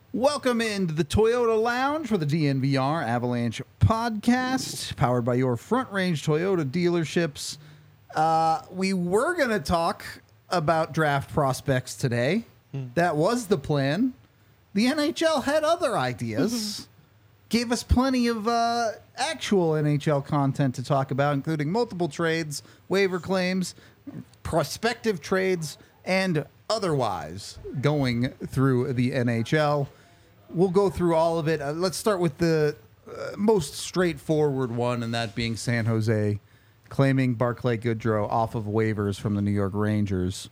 Welcome into the Toyota Lounge for the DNVR Avalanche podcast, powered by your Front Range Toyota dealerships. We were going to talk about draft prospects today. That was the plan. The NHL had other ideas. Gave us plenty of actual NHL content to talk about, including multiple trades, waiver claims, prospective trades, and otherwise going through the NHL. We'll go through all of it. Let's start with the most straightforward one, and that being San Jose claiming Barclay Goodrow off of waivers from the New York Rangers.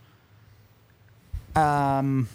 Why?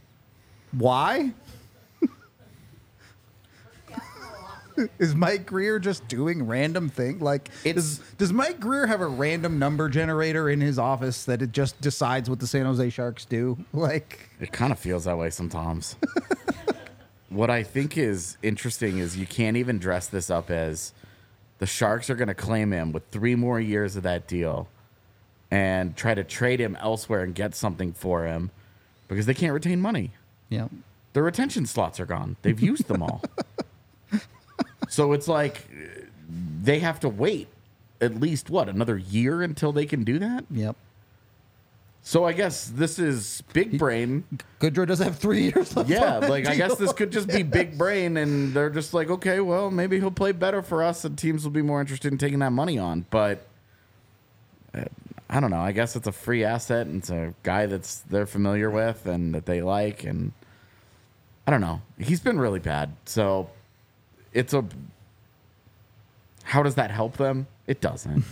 Is Mike Greer just doing random thing? Like, does Mike Greer have a random number generator in his office that it just decides what the San Jose Sharks do? Like, it kind of feels that way sometimes. What I think is interesting is you can't even dress this up as the Sharks are going to claim him with 3 more years of that deal and try to trade him elsewhere and get something for him because they can't retain money. yeah. Their retention slots are gone. They've used them all. So it's like they have to wait at least, another year until they can do that? Yep. So I guess this is big brain. Goodrow does have 3 years left. Yeah, on that like I guess deal. this could just be big brain, and they're just like, okay, well, maybe he'll play better for us, and teams will be more interested in taking that money on. But I don't know. I guess it's a free asset, and it's a guy that's they're familiar with and that they like, and I don't know. He's been really bad, so it's a. How does that help them? It doesn't.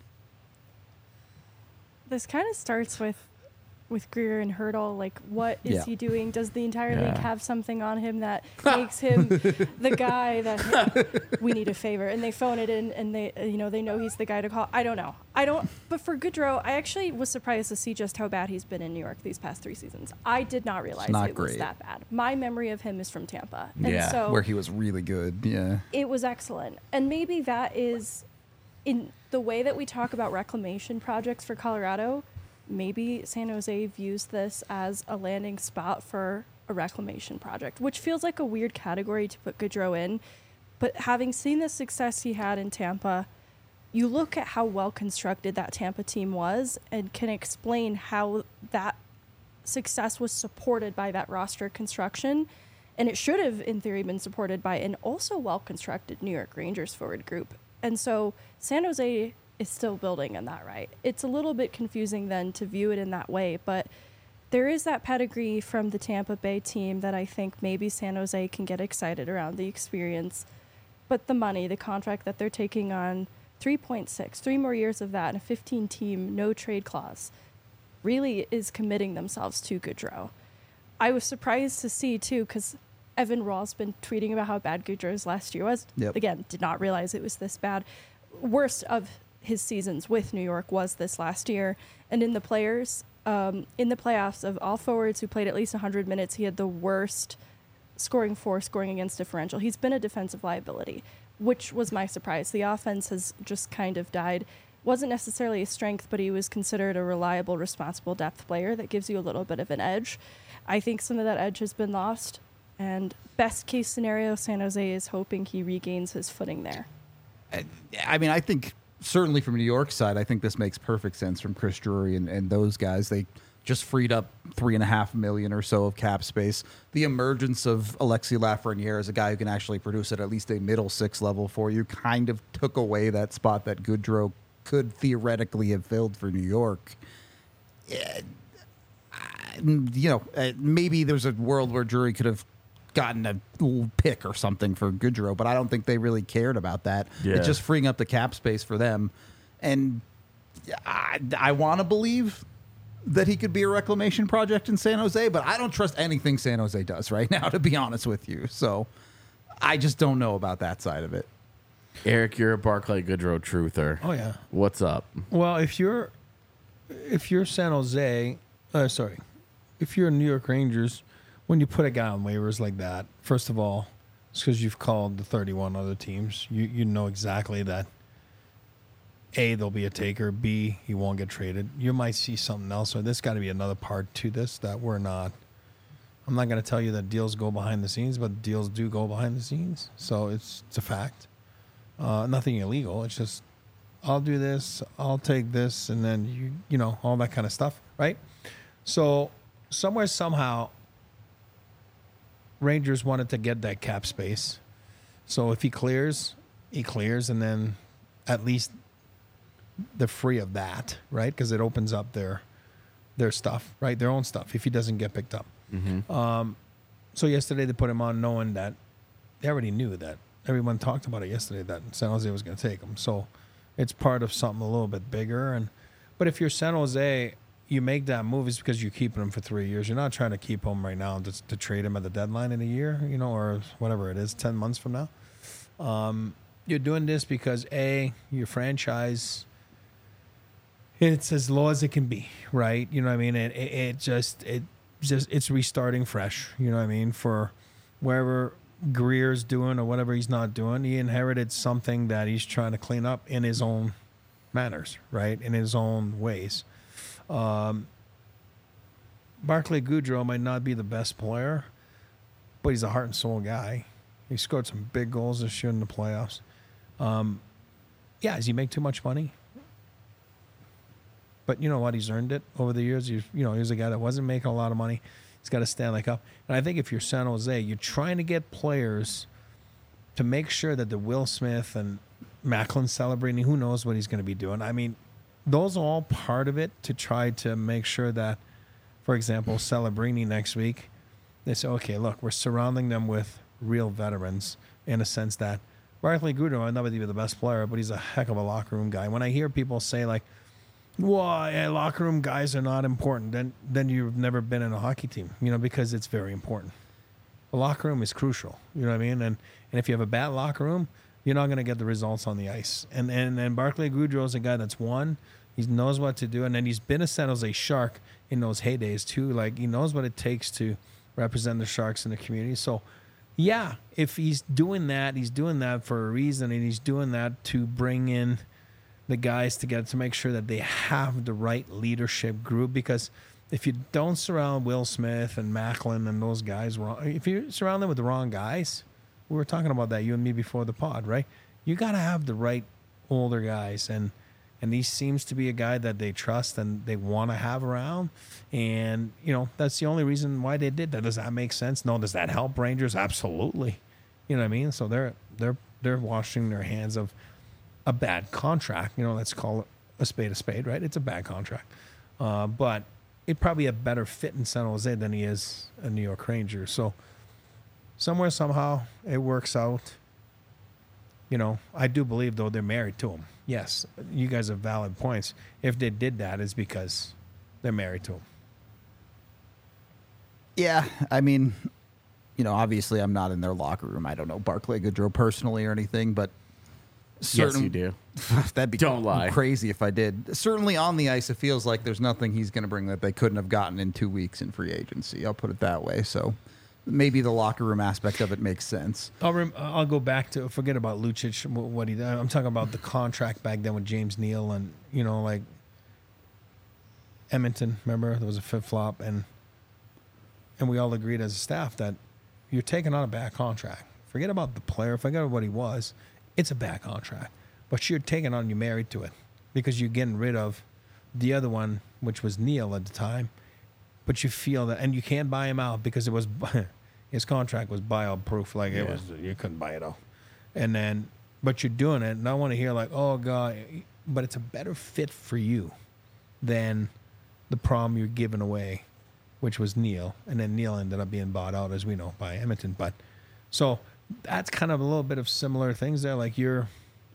This kind of starts with Greer and Hurdle. Like, what is he doing? Does the entire league have something on him that makes him the guy that hey, we need a favor? And they phone it in, and they know he's the guy to call. I don't know. But for Goodrow, I actually was surprised to see just how bad he's been in New York these past 3 seasons. I did not realize it was that bad. My memory of him is from Tampa, and so where he was really good. Yeah, it was excellent. And maybe that is in the way that we talk about reclamation projects for Colorado. Maybe San Jose views this as a landing spot for a reclamation project, which feels like a weird category to put Goodrow in. But having seen the success he had in Tampa, you look at how well constructed that Tampa team was and can explain how that success was supported by that roster construction. And it should have, in theory, been supported by an also well-constructed New York Rangers forward group. And so San Jose is still building in that, right? It's a little bit confusing then to view it in that way, but there is that pedigree from the Tampa Bay team that I think maybe San Jose can get excited around the experience. But the money, the contract that they're taking on, 3.6, 3 more years of that, and a 15-team no-trade clause, really is committing themselves to Goodrow. I was surprised to see, too, because Evan Raw's been tweeting about how bad Goodrow's last year was. Yep. Again, did not realize it was this bad. Worst of his seasons with New York was this last year. And in the playoffs, of all forwards who played at least 100 minutes, he had the worst scoring against differential. He's been a defensive liability, which was my surprise. The offense has just kind of died. Wasn't necessarily a strength, but he was considered a reliable, responsible depth player that gives you a little bit of an edge. I think some of that edge has been lost. And best case scenario, San Jose is hoping he regains his footing there. I mean, I think certainly from New York side, I think this makes perfect sense from Chris Drury and those guys. They just freed up $3.5 million or so of cap space. The emergence of Alexis Lafreniere as a guy who can actually produce at least a middle 6 level for you kind of took away that spot that Goodrow could theoretically have filled for New York. Maybe there's a world where Drury could have gotten a pick or something for Goodrow, but I don't think they really cared about that. Yeah. It's just freeing up the cap space for them. And I want to believe that he could be a reclamation project in San Jose, but I don't trust anything San Jose does right now, to be honest with you. So I just don't know about that side of it. Eric, you're a Barclay Goodrow truther. Oh, yeah. What's up? Well, if you're San Jose, if you're New York Rangers, when you put a guy on waivers like that, first of all, it's because you've called the 31 other teams. You know exactly that A, there'll be a taker. B, he won't get traded. You might see something else. So there's got to be another part to this that we're not I'm not going to tell you that deals go behind the scenes, but deals do go behind the scenes. So it's a fact. Nothing illegal. It's just, I'll do this, I'll take this, and then you know, all that kind of stuff, right? So somewhere, somehow, Rangers wanted to get that cap space. So if he clears, and then at least they're free of that, right? Because it opens up their stuff, right? Their own stuff if he doesn't get picked up. Mm-hmm. So yesterday they put him on knowing that they already knew that. Everyone talked about it yesterday that San Jose was going to take him. So it's part of something a little bit bigger. But if you're San Jose, you make that move is because you're keeping him for 3 years. You're not trying to keep him right now to trade him at the deadline in a year, you know, or whatever it is, 10 months from now. You're doing this because your franchise, it's as low as it can be, right? You know what I mean? It's restarting fresh. You know what I mean? For wherever Greer's doing or whatever he's not doing, he inherited something that he's trying to clean up in his own manners, right? In his own ways. Barclay Goodrow might not be the best player, but he's a heart and soul guy. He scored some big goals this year in the playoffs. Does he make too much money? But you know what? He's earned it over the years. He was a guy that wasn't making a lot of money. He's got a Stanley Cup. And I think if you're San Jose, you're trying to get players to make sure that the Will Smith and Macklin celebrating, who knows what he's going to be doing. I mean, those are all part of it to try to make sure that, for example, Celebrini next week, they say, okay, look, we're surrounding them with real veterans in a sense that Barclay Goodrow might not be the best player, but he's a heck of a locker room guy. When I hear people say like, well, locker room guys are not important, then you've never been in a hockey team, you know, because it's very important. The locker room is crucial, you know what I mean? And if you have a bad locker room, you're not going to get the results on the ice. And Barclay Goodrow is a guy that's won. He knows what to do, and then he's been a San Jose Shark in those heydays too. Like, he knows what it takes to represent the Sharks in the community. So, yeah, if he's doing that for a reason, and he's doing that to bring in the guys together to make sure that they have the right leadership group. Because if you don't surround Will Smith and Macklin and those guys wrong, if you surround them with the wrong guys, we were talking about that, you and me, before the pod, right? You got to have the right older guys, and he seems to be a guy that they trust and they want to have around. And, you know, that's the only reason why they did that. Does that make sense? No. Does that help Rangers? Absolutely. You know what I mean? So they're washing their hands of a bad contract. You know, let's call it a spade, right? It's a bad contract. But it'd probably a better fit in San Jose than he is a New York Ranger. So somewhere, somehow, it works out. You know, I do believe, though, they're married to him. Yes, you guys have valid points. If they did that, it's because they're married to him. Yeah, I mean, you know, obviously I'm not in their locker room. I don't know Barclay Goodrow personally or anything, but Yes, you do. That'd be Don't lie. crazy if I did. Certainly on the ice, it feels like there's nothing he's going to bring that they couldn't have gotten in 2 weeks in free agency. I'll put it that way. So maybe the locker room aspect of it makes sense. I'll go back to, forget about Lucic, what he did. I'm talking about the contract back then with James Neal and, you know, like Edmonton, remember? There was a flip-flop, and we all agreed as a staff that you're taking on a bad contract. Forget about the player. Forget about what he was. It's a bad contract. But you're taking on, you're married to it because you're getting rid of the other one, which was Neal at the time. But you feel that, and you can't buy him out because it was his contract was buyout proof. Like it was, you couldn't buy it out. And then, but you're doing it, and I want to hear like, oh God, but it's a better fit for you than the problem you're giving away, which was Neal, and then Neal ended up being bought out, as we know, by Edmonton. But so that's kind of a little bit of similar things there. Like you'll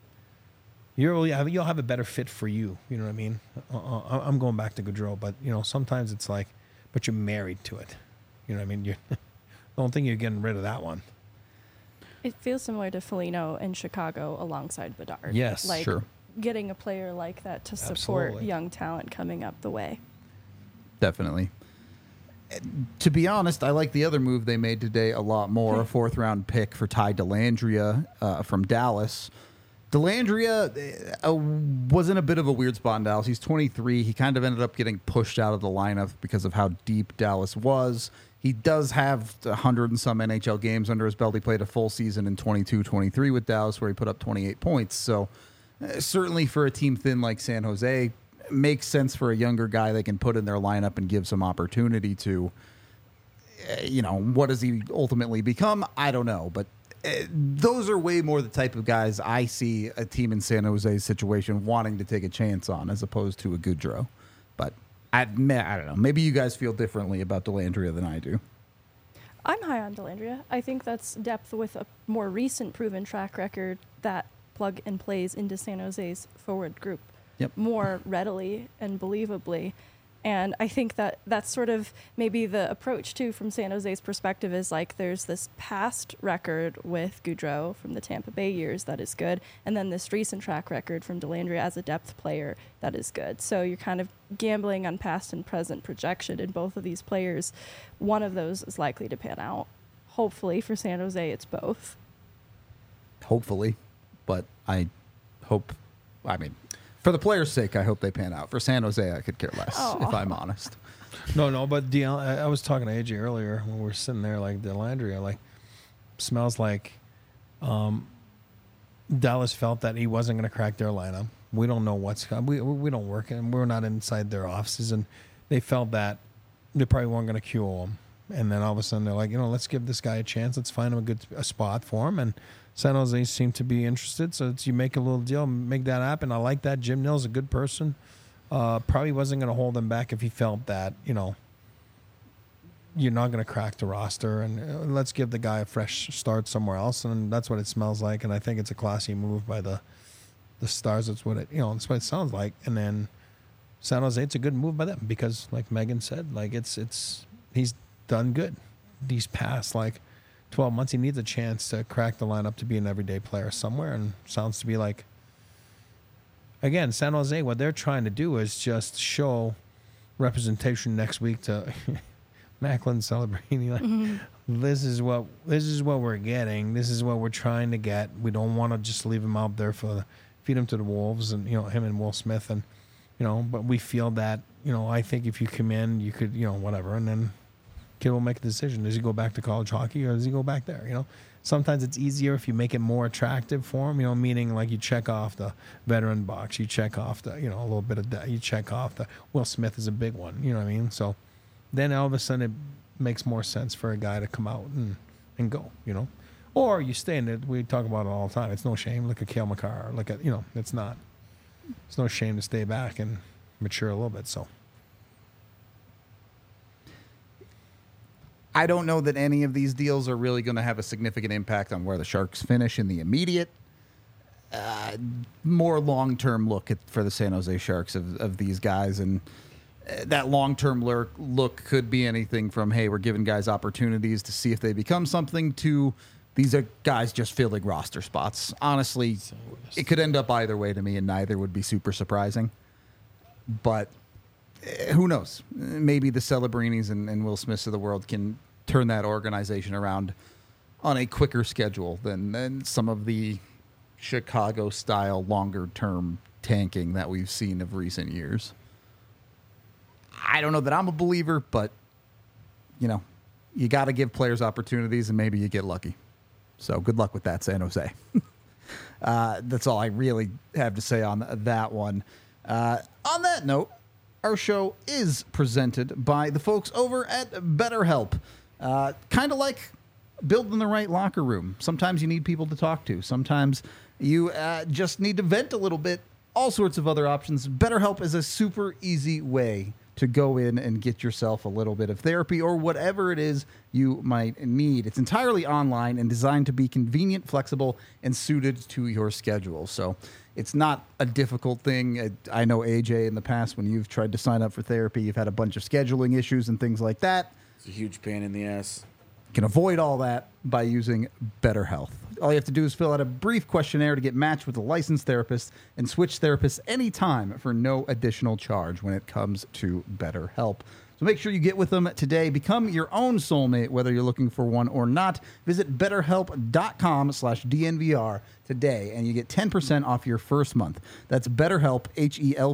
have a better fit for you. You know what I mean? I'm going back to Gaudreau, but you know, sometimes it's like, but you're married to it. You know what I mean? I don't think you're getting rid of that one. It feels similar to Foligno in Chicago alongside Bedard. Yes, like sure. Getting a player like that to support Absolutely. young talent coming up the way. Definitely. To be honest, I like the other move they made today a lot more. A 4th-round pick for Ty Dellandrea from Dallas. Dellandrea was in a bit of a weird spot in Dallas. He's 23. He kind of ended up getting pushed out of the lineup because of how deep Dallas was. He does have 100 and some NHL games under his belt. He played a full season in 22-23 with Dallas, where he put up 28 points. So certainly for a team thin like San Jose, makes sense for a younger guy they can put in their lineup and give some opportunity to. What does he ultimately become? I don't know, but those are way more the type of guys I see a team in San Jose's situation wanting to take a chance on, as opposed to a Goudreau. But I don't know. Maybe you guys feel differently about Dellandrea than I do. I'm high on Dellandrea. I think that's depth with a more recent proven track record that plug and plays into San Jose's forward group more readily and believably. And I think that that's sort of maybe the approach, too, from San Jose's perspective is like there's this past record with Goudreau from the Tampa Bay years that is good, and then this recent track record from Dellandrea as a depth player that is good. So you're kind of gambling on past and present projection in both of these players. One of those is likely to pan out. Hopefully for San Jose, it's both. Hopefully. But for the players' sake, I hope they pan out. For San Jose, I could care less, if I'm honest. No, but I was talking to AJ earlier when we were sitting there, like Dellandrea, like smells like Dallas felt that he wasn't going to crack their lineup. We don't know we don't work, and we're not inside their offices, and they felt that they probably weren't going to cue him. And then all of a sudden they're like, let's give this guy a chance. Let's find him a spot for him. And San Jose seemed to be interested. So you make a little deal, make that happen. I like that. Jim Nill's a good person. Probably wasn't going to hold him back if he felt that, you're not going to crack the roster. And let's give the guy a fresh start somewhere else. And that's what it smells like. And I think it's a classy move by the Stars. That's what that's what it sounds like. And then San Jose, it's a good move by them because, like Megan said, like he's done good these past 12 months. He needs a chance to crack the lineup to be an everyday player somewhere, and sounds to be like, again, San Jose, what they're trying to do is just show representation next week to Macklin Celebrini. This is what we're getting. This is what we're trying to get. We don't want to just leave him out there feed him to the wolves, and him and Will Smith, and but we feel that I think if you come in, you could whatever, and then kid will make a decision. Does he go back to college hockey or does he go back there? Sometimes it's easier if you make it more attractive for him, meaning like you check off the veteran box, you check off the, a little bit of that, you check off the Will Smith is a big one, you know what I mean? So then all of a sudden it makes more sense for a guy to come out and go, or you stay in it. We talk about it all the time. It's no shame. Look at Cale Makar. Look at, it's no shame to stay back and mature a little bit. So. I don't know that any of these deals are really going to have a significant impact on where the Sharks finish in the immediate. More long-term look for the San Jose Sharks of these guys, and that long-term look could be anything from, hey, we're giving guys opportunities to see if they become something, to these are guys just filling roster spots. Honestly, it could end up either way to me, and neither would be super surprising. But who knows? Maybe the Celebrinis and Will Smiths of the world can turn that organization around on a quicker schedule than some of the Chicago-style longer-term tanking that we've seen of recent years. I don't know that I'm a believer, but, you got to give players opportunities, and maybe you get lucky. So good luck with that, San Jose. That's all I really have to say on that one. On that note, our show is presented by the folks over at BetterHelp. Kind of like building the right locker room. Sometimes you need people to talk to. Sometimes you just need to vent a little bit. All sorts of other options. BetterHelp is a super easy way to go in and get yourself a little bit of therapy or whatever it is you might need. It's entirely online and designed to be convenient, flexible, and suited to your schedule. So it's not a difficult thing. I know, AJ, in the past, when you've tried to sign up for therapy, you've had a bunch of scheduling issues and things like that. It's a huge pain in the ass. You can avoid all that by using BetterHelp. All you have to do is fill out a brief questionnaire to get matched with a licensed therapist and switch therapists anytime for no additional charge when it comes to BetterHelp. So make sure you get with them today. Become your own soulmate, whether you're looking for one or not. Visit BetterHelp.com/DNVR today, and you get 10% off your first month. That's BetterHelp,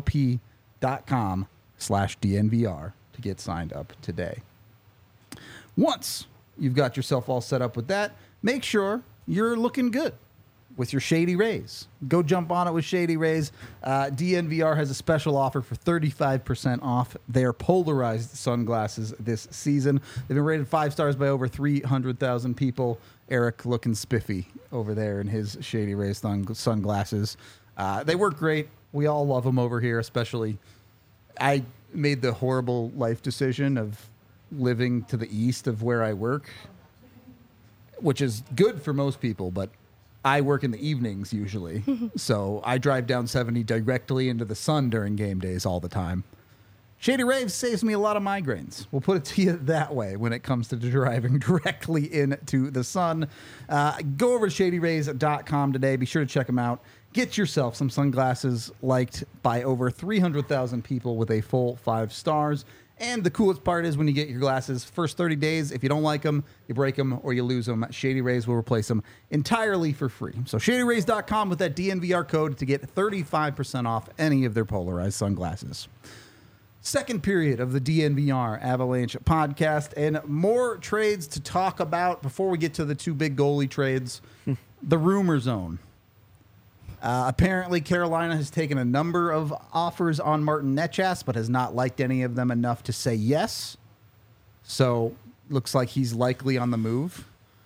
HELP.com/DNVR to get signed up today. Once you've got yourself all set up with that, make sure you're looking good with your Shady Rays. Go jump on it with Shady Rays. DNVR has a special offer for 35% off their polarized sunglasses this season. They've been rated 5 stars by over 300,000 people. Eric looking spiffy over there in his Shady Rays sunglasses. They work great. We all love them over here, especially. I made the horrible life decision of living to the east of where I work, which is good for most people, but I work in the evenings usually. So I drive down 70 directly into the sun during game days all the time. Shady Rays saves me a lot of migraines. We'll put it to you that way when it comes to driving directly into the sun. Go over to shadyrays.com today. Be sure to check them out. Get yourself some sunglasses liked by over 300,000 people with a full 5 stars. And the coolest part is when you get your glasses, first 30 days, if you don't like them, you break them or you lose them, Shady Rays will replace them entirely for free. So shadyrays.com with that DNVR code to get 35% off any of their polarized sunglasses. Second period of the DNVR Avalanche podcast, and more trades to talk about before we get to the 2 big goalie trades. The rumor zone. Apparently, Carolina has taken a number of offers on Martin Necas, but has not liked any of them enough to say yes. So, looks like he's likely on the move.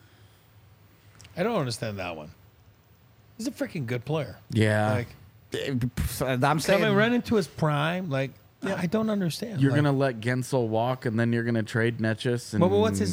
I don't understand that one. He's a freaking good player. Yeah. Like, I'm saying coming right into his prime, like, yeah, I don't understand. You're like, gonna let Gensel walk, and then you're gonna trade Necas. And Well, what's his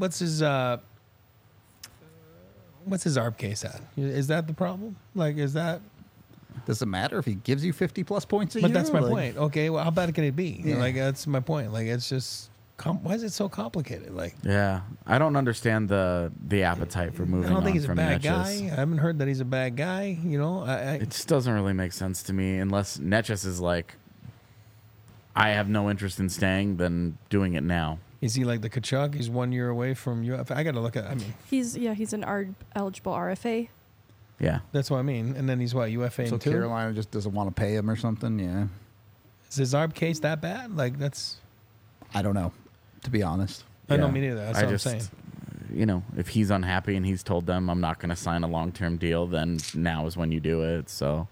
ARB case at? Is that the problem? Like, is that? does it matter if he gives you 50 plus points a year? But that's my Like, point. Okay, well, how bad can it be? Yeah. Like, that's my point. Like, it's just, why is it so complicated? Like, Yeah, I don't understand the appetite for moving. I don't think on he's a from bad Necas. guy. I haven't heard that he's a bad guy. You know, It just doesn't really make sense to me unless Necas is like, I have no interest in staying, then doing it now. is he like the Kachuk? He's 1 year away from UFA. I got to look at. I mean, He's an eligible RFA. Yeah, that's what I mean. And then he's what, UFA So in 2? Carolina just doesn't want to pay him or something? Yeah. Is his ARB case that bad? Like, that's. I don't know, to be honest. I Yeah. know, me neither. That's I what just, I'm saying. you know, if he's unhappy and he's told them I'm not going to sign a long-term deal, then now is when you do it. So,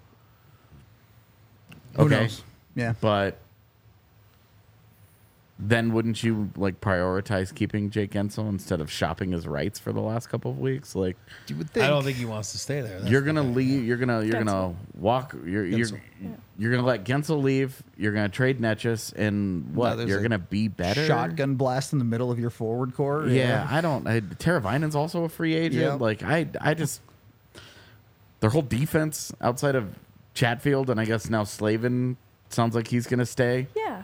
Who okay, knows? Yeah. but then wouldn't you like prioritize keeping Jake Gensel instead of shopping his rights for the last couple of weeks? Like, You would think. I don't think he wants to stay there. That's you're the gonna thing. leave. You're gonna Gensel. walk. You're Gensel. you're gonna let Gensel leave. You're gonna trade Necas, and what? there's You're a gonna be better. Shotgun blast in the middle of your forward core. Yeah, I don't. Teravainen's also a free agent. Yeah. Like I just their whole defense outside of Chatfield and I guess now Slavin sounds like he's gonna stay. Yeah.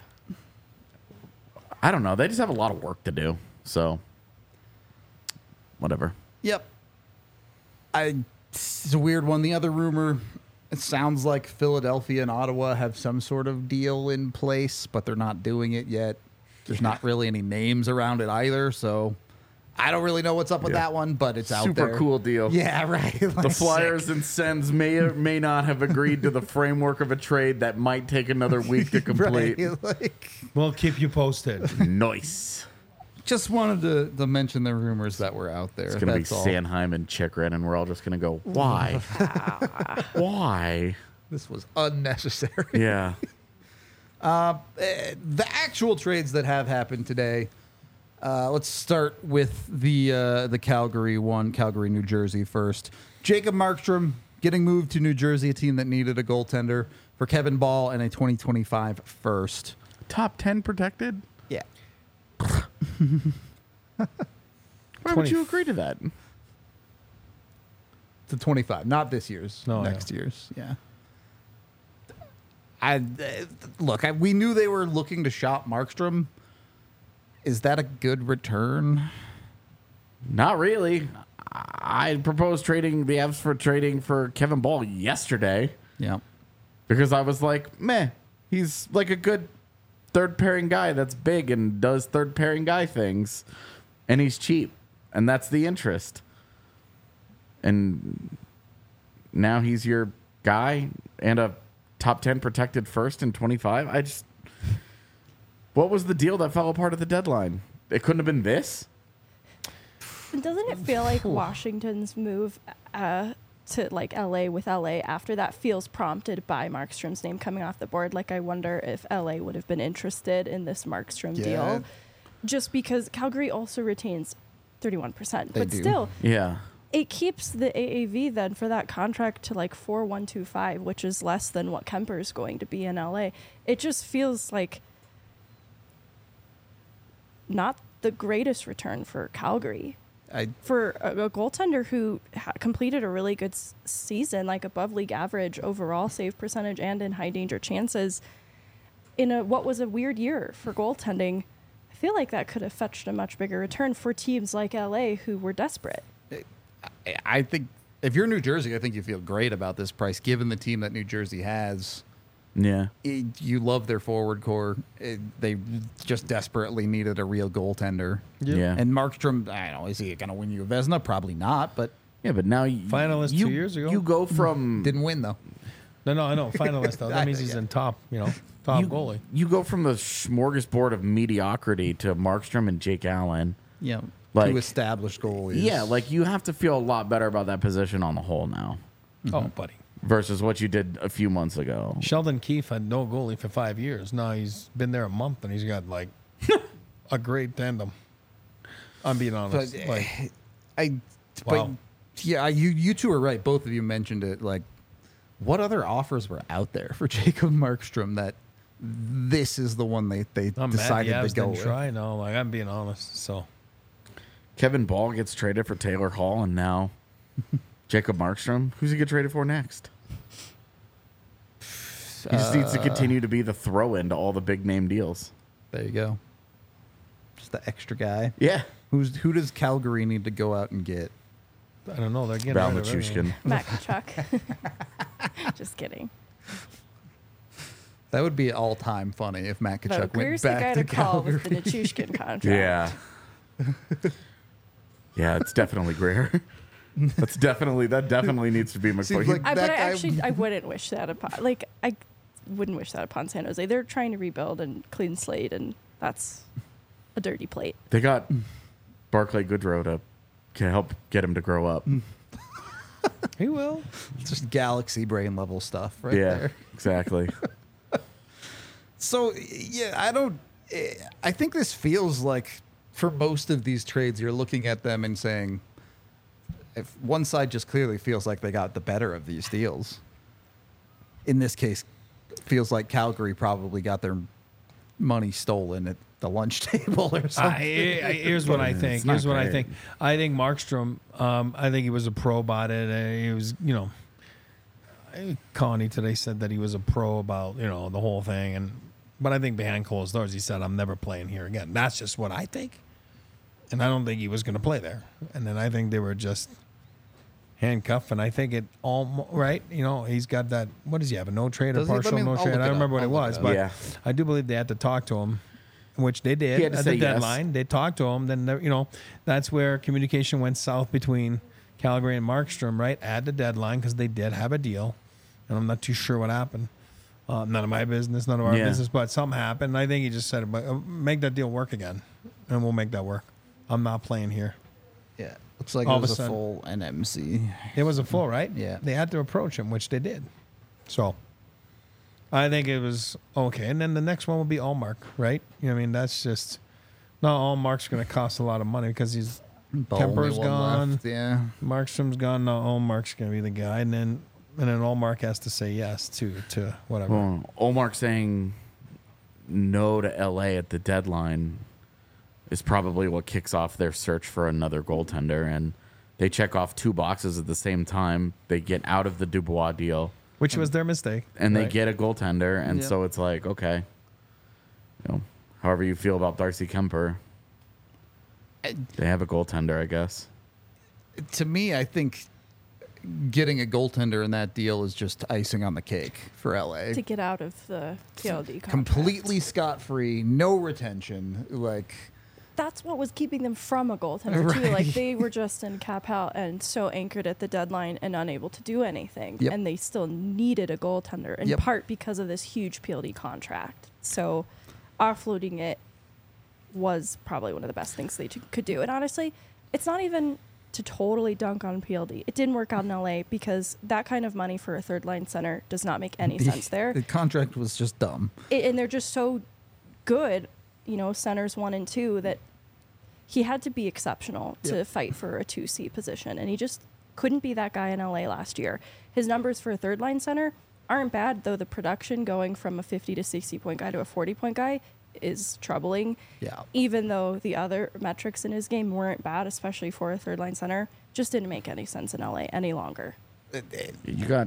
I don't know. They just have a lot of work to do. So whatever. Yep. It's a weird one. The other rumor, it sounds like Philadelphia and Ottawa have some sort of deal in place, but they're not doing it yet. There's not really any names around it either, so I don't really know what's up with Yeah. that one, but it's out there. Super cool deal. Yeah, right. The Like, Flyers and Sens may or may not have agreed to the framework of a trade that might take another week to complete. right, like, We'll keep you posted. Nice. just wanted to mention the rumors that were out there. It's gonna That's be all. Sanheim and Chikrin, and we're all just gonna go, why? Why? This was unnecessary. Yeah. The actual trades that have happened today. Let's start with the Calgary one, Calgary, New Jersey first. Jacob Markstrom getting moved to New Jersey, a team that needed a goaltender, for Kevin Ball and a 2025 first. Top 10 protected? Yeah. Why would you agree to that? To 25, not this year's, No, next year's. Yeah. We knew they were looking to shop Markstrom. Is that a good return? Not really. I proposed trading the Avs for trading for Kevin Ball yesterday Yeah. because I was like, meh, he's like a good third pairing guy that's big and does third pairing guy things, and he's cheap, and that's the interest. And now he's your guy and a top 10 protected first in 25. What was the deal that fell apart at the deadline? It couldn't have been this? Doesn't it feel like Washington's move to like LA with LA after that feels prompted by Markstrom's name coming off the board? Like, I wonder if LA would have been interested in this Markstrom deal, just because Calgary also retains 31%. But do. still, Yeah. it keeps the AAV then for that contract to like 4,125, which is less than what Kemper's going to be in LA. It just feels like not the greatest return for Calgary. For a goaltender who completed a really good season, like above league average overall save percentage and in high danger chances, in what was a weird year for goaltending, I feel like that could have fetched a much bigger return for teams like LA who were desperate. I think if you're New Jersey, I think you feel great about this price, given the team that New Jersey has. Yeah. You love their forward core. They just desperately needed a real goaltender. Yep. Yeah. And Markstrom, I don't know, is he going to win you a Vezina? Probably not, but Yeah, but now Finalist 2 years ago. You go from didn't win, though. No, I know. Finalist, though. That means he's in top goalie. You go from the smorgasbord of mediocrity to Markstrom and Jake Allen. Yeah. Like- Two established goalies. Yeah, like you have to feel a lot better about that position on the whole now Oh, buddy. versus what you did a few months ago. Sheldon Keefe had no goalie for 5 years. Now he's been there a month and he's got like a great tandem. I'm being honest. But Wow. yeah, you two are right. Both of you mentioned it. Like, what other offers were out there for Jacob Markstrom that this is the one they I'm decided mad the Avs to go didn't with? try. No, like I'm being honest. So Kevin Ball gets traded for Taylor Hall, and now Jacob Markstrom. Who's he get traded for next? He just needs to continue to be the throw-in to all the big name deals. There you go. Just the extra guy. Yeah. Who does Calgary need to go out and get? I don't know. They're getting Val rid of everything. Nichushkin. Matt Kachuk. Just kidding. That would be all time funny if Matt No, Kachuk Greer's went the guy back to to call Calgary. with the Nichushkin contract. Yeah. Yeah, it's definitely Greer. That definitely needs to be McCoy. Seems like- But That I guy- actually, I wouldn't wish that upon, I wouldn't wish that upon San Jose. They're trying to rebuild and clean slate, and that's a dirty plate. They got Barclay Goodrow to help get him to grow up. He will. It's just galaxy brain level stuff right Yeah, there. exactly. So yeah, I think this feels like for most of these trades, you're looking at them and saying, if one side just clearly feels like they got the better of these deals. In this case, feels like Calgary probably got their money stolen at the lunch table or something. Here's what I think. It's not Here's what I great. think. I think Markstrom. I think he was a pro about it. He was, Connie today said that he was a pro about the whole thing, but I think behind closed doors he said, "I'm never playing here again." That's just what I think, and I don't think he was going to play there. And then I think they were just handcuffed, and I think it all right. He's got that. What does he have? A no trade or Does he? partial no I'll trade? look I it don't remember up. what it I'll was, look it but up. I do believe they had to talk to him. Which they did He had to at say the yes. deadline. They talked to him. Then that's where communication went south between Calgary and Markstrom, right at the deadline, because they did have a deal, and I'm not too sure what happened. None of my business, none of our Yeah. business, but something happened. I think he just said, "Make that deal work again, and we'll make that work." I'm not playing here. Yeah, looks like All it of a was a sudden- full NMC. It was a full, right? Yeah. They had to approach him, which they did. So I think it was okay. And then the next one will be Allmark, right? That's just no. Allmark's going to cost a lot of money because he's The Kemper's only one gone. left, yeah. Markstrom's gone. No, Allmark's going to be the guy, and then Allmark has to say yes to whatever. Well, Olmark saying no to LA at the deadline is probably what kicks off their search for another goaltender, and they check off two boxes at the same time. They get out of the Dubois deal, Which was their mistake. and they right? get a goaltender, and Yep. so it's like, okay, however you feel about Darcy Kemper, they have a goaltender, I guess. To me, I think getting a goaltender in that deal is just icing on the cake for LA. To get out of the TLD contract. Completely scot-free, no retention. Like, That's what was keeping them from a goaltender too. Like Right. they were just in cap out and so anchored at the deadline and unable to do anything. Yep. And they still needed a goaltender in Yep. part because of this huge PLD contract. So offloading it was probably one of the best things they could do. And honestly, it's not even to totally dunk on PLD. It didn't work out in LA because that kind of money for a third line center does not make any sense there. The contract was just dumb. And they're just so good, centers 1 and 2, that he had to be exceptional to fight for a 2C position. And he just couldn't be that guy in LA last year. His numbers for a third line center aren't bad, though the production going from a 50 to 60 point guy to a 40 point guy is troubling. Yeah. Even though the other metrics in his game weren't bad, especially for a third line center, just didn't make any sense in LA any longer. You got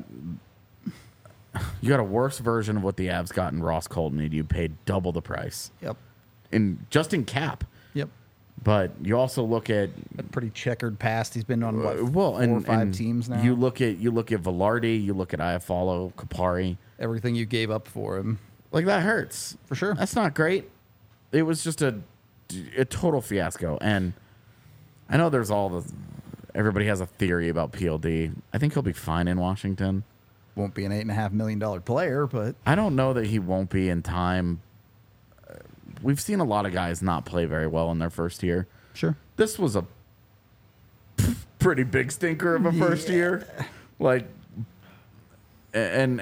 a worse version of what the Avs got in Ross Colton, and you paid double the price. Yep. Just in cap. Yep. But you also look at A pretty checkered past. He's been on what, well, 4 or 5 teams now. You look at Velarde, you look at Iafallo, Kapari. Everything you gave up for him. Like, that hurts. For sure. That's not great. It was just a total fiasco. And I know there's everybody has a theory about PLD. I think he'll be fine in Washington. Won't be an $8.5 million player, but I don't know that he won't be in time. We've seen a lot of guys not play very well in their first year. sure. This This was a pretty big stinker of a first year. Like, and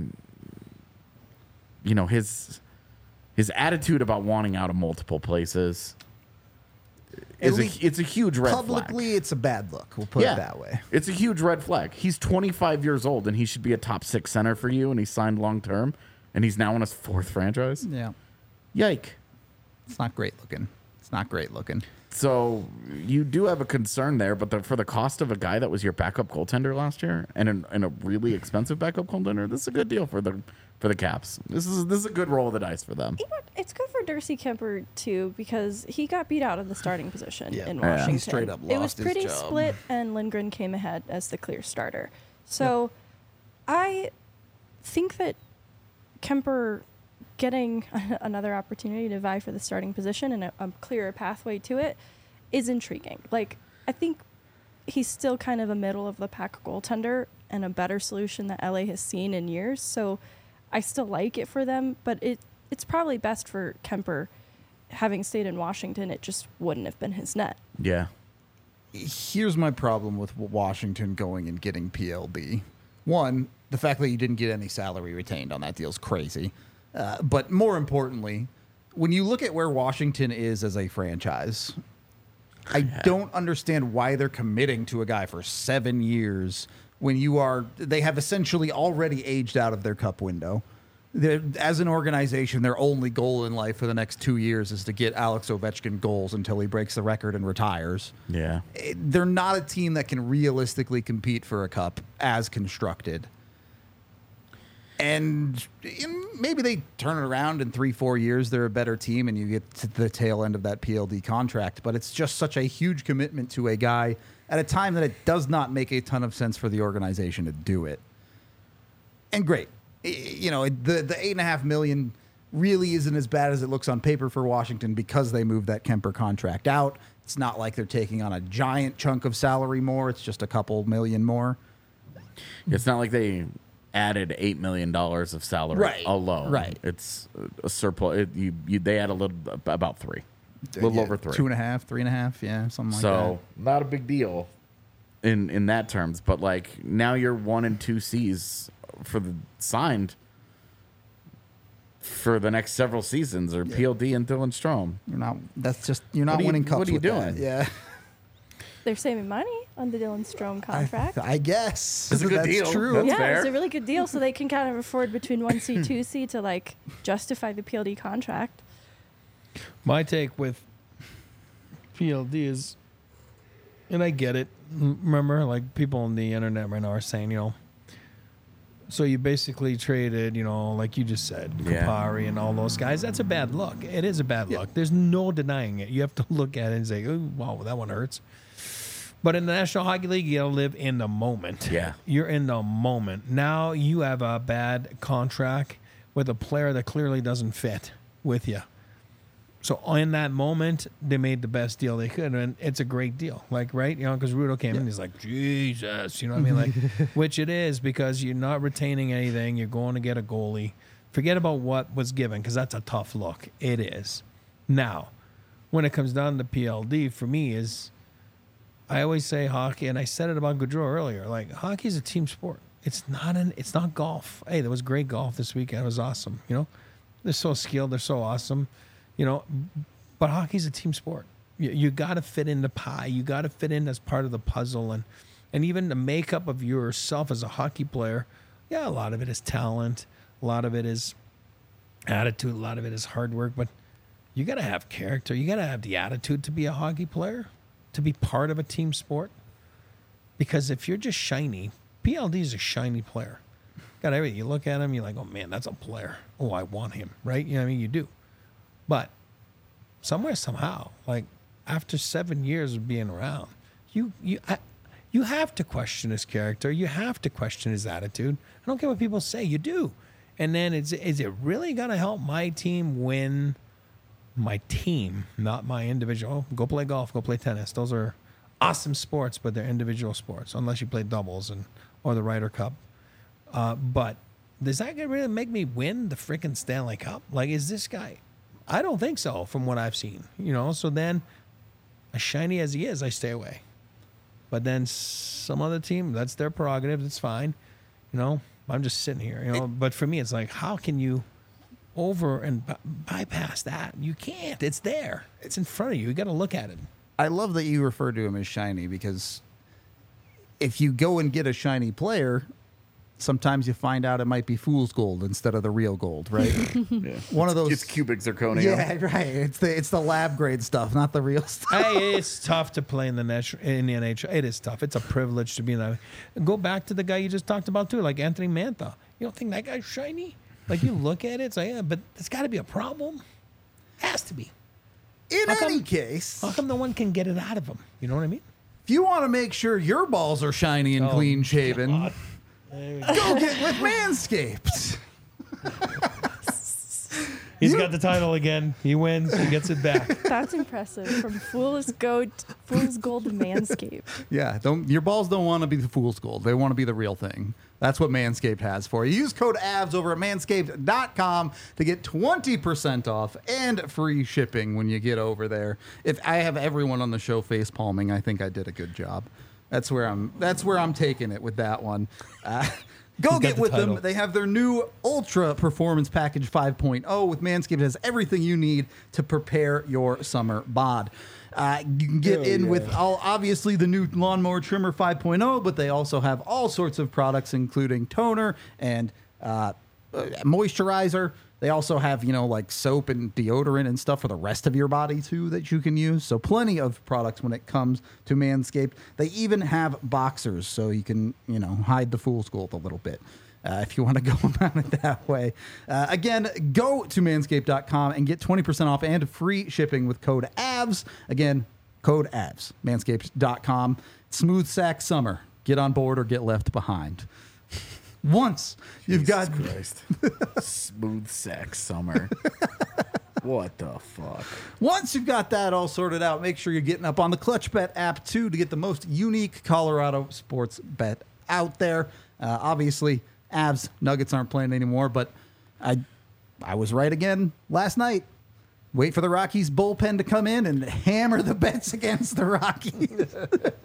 his attitude about wanting out of multiple places it's a huge red flag. Publicly, it's a bad look. We'll put it that way. It's a huge red flag. He's 25 years old, and he should be a top 6 center for you, and he's signed long term, and he's now in his 4th franchise. Yeah. Yike. It's not great looking. It's not great looking. So you do have a concern there, but for the cost of a guy that was your backup goaltender last year and a really expensive backup goaltender, this is a good deal for the Caps. This is a good roll of the dice for them. It's good for Darcy Kemper too, because he got beat out of the starting position in Yeah. Washington. He straight up It was lost his pretty job. split, and Lindgren came ahead as the clear starter. So I think that Kemper getting another opportunity to vie for the starting position and a clearer pathway to it is intriguing. Like, I think he's still kind of a middle of the pack goaltender and a better solution that LA has seen in years. So I still like it for them, but it's probably best for Kemper. Having stayed in Washington, it just wouldn't have been his net. Yeah. Here's my problem with Washington going and getting PLD. One, the fact that you didn't get any salary retained on that deal is crazy. But more importantly, when you look at where Washington is as a franchise, I don't understand why they're committing to a guy for 7 years when they have essentially already aged out of their cup window. As an organization, their only goal in life for the next 2 years is to get Alex Ovechkin goals until he breaks the record and retires. Yeah. They're not a team that can realistically compete for a cup as constructed. And maybe they turn it around in 3-4 years. They're a better team, and you get to the tail end of that PLD contract. But it's just such a huge commitment to a guy at a time that it does not make a ton of sense for the organization to do it. And great, the $8.5 million really isn't as bad as it looks on paper for Washington because they moved that Kemper contract out. It's not like they're taking on a giant chunk of salary more. It's just a couple million more. It's not like they added $8 million of salary alone. Right. It's a surplus. They add about 3, a little over 3, 2.5, 3.5, yeah, something like that. So not a big deal in that terms. But like now you're 1 and 2 C's signed for the next several seasons, or PLD and Dylan Strome. You're not winning cups. What are you with doing? that. Yeah. They're saving money on the Dylan Strome contract. I guess. It's a good That's deal. true. That's yeah, fair. it's a really good deal, so they can kind of afford between 1C, 2C to like justify the PLD contract. My take with PLD is, and I get it. Remember, like people on the internet right now are saying, so you basically traded, like you just said, Yeah. Kapari and all those guys. That's a bad look. It is a bad look. There's no denying it. You have to look at it and say, oh, wow, that one hurts. But in the National Hockey League, you got to live in the moment. Yeah. You're in the moment. Now you have a bad contract with a player that clearly doesn't fit with you. So in that moment, they made the best deal they could, and it's a great deal. Like, right? Because Rudo came in, he's like, Jesus, you know what I mean? Like, which it is, because you're not retaining anything. You're going to get a goalie. Forget about what was given, because that's a tough look. It is. Now, when it comes down to PLD, for me, is I always say hockey, and I said it about Gaudreau earlier. Like hockey is a team sport. It's not golf. Hey, there was great golf this weekend. It was awesome. You know, they're so skilled. They're so awesome. You know, but hockey's a team sport. You got to fit in the pie. You got to fit in as part of the puzzle, and even the makeup of yourself as a hockey player. Yeah, a lot of it is talent. A lot of it is attitude. A lot of it is hard work. But you got to have character. You got to have the attitude to be a hockey player, to be part of a team sport. Because if you're just shiny, PLD is a shiny player. Got everything. You look at him, you're like, oh man, that's a player. Oh, I want him, right? You know what I mean? You do. But somewhere, somehow, like after 7 years of being around, you have to question his character. You have to question his attitude. I don't care what people say. You do. And then is it really going to help my team win? My team, not my individual. Go play golf. Go play tennis. Those are awesome sports, but they're individual sports, unless you play doubles or the Ryder Cup. But does that really make me win the freaking Stanley Cup? Like, is this guy? I don't think so, from what I've seen. You know, so then, as shiny as he is, I stay away. But then some other team, that's their prerogative. It's fine. You know, I'm just sitting here. You know, but for me, it's like, how can you over and bypass that? You can't. It's there. It's in front of you. You got to look at it. I love that you refer to him as shiny, because if you go and get a shiny player, sometimes you find out it might be fool's gold instead of the real gold, right? Yeah. One of those. It's cubic zirconia. Yeah, right. It's the lab grade stuff, not the real stuff. Hey, it's tough to play in the NHL. It is tough. It's a privilege to be in that. Go back to the guy you just talked about too, like Anthony Mantha. You don't think that guy's shiny? Like, you look at it, it's like, yeah, but there's got to be a problem. Has to be. In any case, How come no one can get it out of him? You know what I mean? if you want to make sure your balls are shiny and clean shaven, God. go get with Manscaped. He's got the title again. He wins. He gets it back. That's impressive. From Fool's Gold to Manscaped. Yeah, your balls don't want to be the fool's gold. They want to be the real thing. That's what Manscaped has for you. Use code AVS over at manscaped.com to get 20% off and free shipping when you get over there. If I have everyone on the show face palming, I think I did a good job. That's where I'm taking it with that one. Go get with them. They have their new Ultra Performance Package 5.0 with Manscaped. It has everything you need to prepare your summer bod. You can get with obviously the new Lawnmower Trimmer 5.0, but they also have all sorts of products, including toner and moisturizer. They also have, like soap and deodorant and stuff for the rest of your body, too, that you can use. So plenty of products when it comes to Manscaped. They even have boxers, so you can, hide the fool's gold a little bit if you want to go about it that way. Again, go to manscaped.com and get 20% off and free shipping with code AVS. Again, code AVS, manscaped.com. Smooth sack summer. Get on board or get left behind. Once you've got smooth sack summer. What the fuck? Once you've got that all sorted out, make sure you're getting up on the ClutchBet app too to get the most unique Colorado sports bet out there. Obviously, Avs Nuggets aren't playing anymore, but I was right again last night. Wait for the Rockies bullpen to come in and hammer the bets against the Rockies.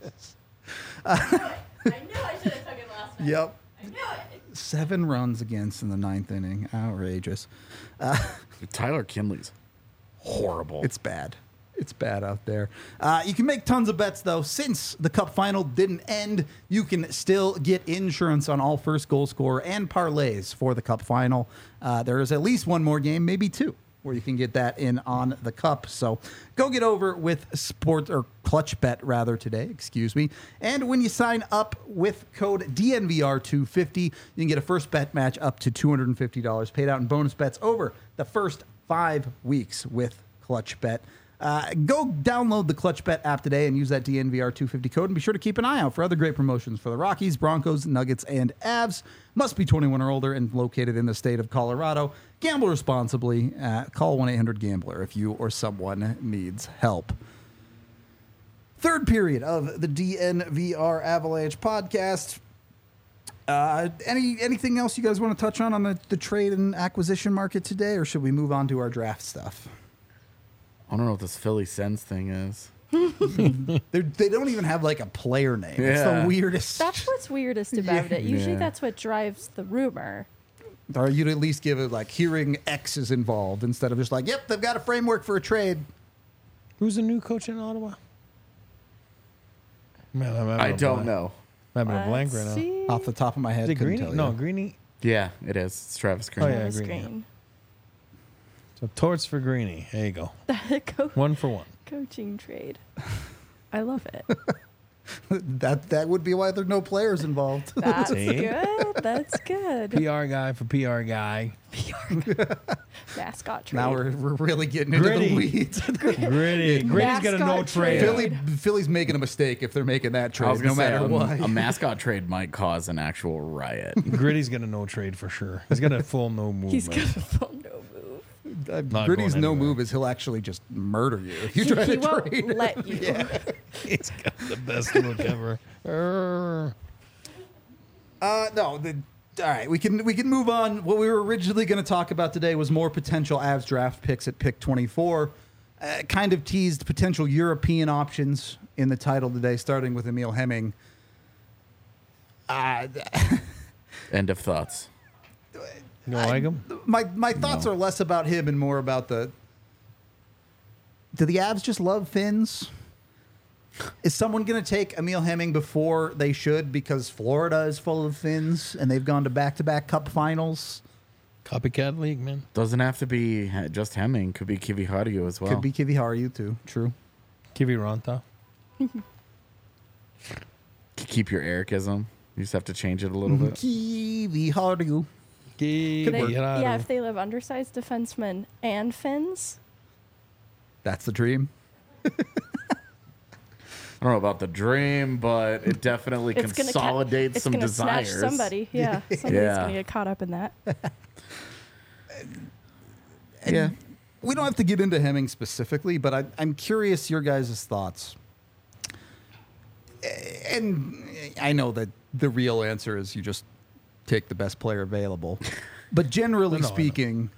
I knew I should have took it last night. Yep. I knew it. 7 runs against in the 9th inning. Outrageous. Tyler Kinley's horrible. It's bad. It's bad out there. You can make tons of bets, though. Since the Cup final didn't end, you can still get insurance on all first goal scorer and parlays for the Cup final. There is at least one more game, maybe 2, where you can get that in on the Cup. So go get over with ClutchBet rather today, excuse me. And when you sign up with code DNVR250, you can get a first bet match up to $250 paid out in bonus bets over the first 5 weeks with ClutchBet. Go download the ClutchBet app today and use that DNVR250 code, and be sure to keep an eye out for other great promotions for the Rockies, Broncos, Nuggets, and Avs. Must be 21 or older and located in the state of Colorado. Gamble responsibly. Call 1-800-GAMBLER if you or someone needs help. Third period of the DNVR Avalanche podcast. Anything else you guys want to touch on the trade and acquisition market today, or should we move on to our draft stuff? I don't know what this Philly Sens thing is. They don't even have like a player name. It's the Yeah. weirdest. That's what's weirdest about it. Usually Yeah. that's what drives the rumor. Or you'd at least give it like hearing X is involved instead of just like, yep, they've got a framework for a trade. Who's the new coach in Ottawa? Man, I'm having I a don't blank. know. I'm having a blank right Let's now. see. Off the top of my head, Is it couldn't Greeny? tell you. No, Greeny. Yeah, it is. It's Travis Green. Oh, yeah. Travis Green, Green. So torts for Greeny. There you go. Co- 1 for 1. coaching trade. I love it. that would be why there's no players involved. That's See? good. That's good. PR guy for PR guy. Mascot trade. Now we're really getting into Gritty. the weeds. Gritty. Gritty's got a no Mascot trade. trade. Philly's making a mistake if they're making that I trade, was no gonna say, matter what. a mascot trade might cause an actual riot. Gritty's got a no trade for sure. He's got a full no move. He's got a full no move. Not Gritty's going no anywhere. move is he'll actually just murder you if you He try to won't trade. let you. He's got the best look ever. No. All right, we can move on. What we were originally going to talk about today was more potential Avs draft picks at pick 24. Kind of teased potential European options in the title today, starting with Emil Hemming. End of thoughts. You don't like him? My thoughts No. are less about him and more about the. Do the Avs just love Finns? Is someone going to take Emil Hemming before they should because Florida is full of Finns and they've gone to back-to-back Cup finals? Copycat league, man. Doesn't have to be just Hemming. Could be Kivi Hardio as well. Could be Kiviharu too. True. Kivi Ranta. Keep your Ericism. You just have to change it a little bit. Kiviharu. Yeah, if they live undersized defensemen and Finns, That's the dream. I don't know about the dream, but it definitely it's going to consolidates some gonna desires. snatch somebody. Yeah, somebody's Yeah. going to get caught up in that. Yeah. We don't have to get into Hemming specifically, but I'm curious your guys' thoughts. And I know that the real answer is you just take the best player available. But generally No, I know. speaking,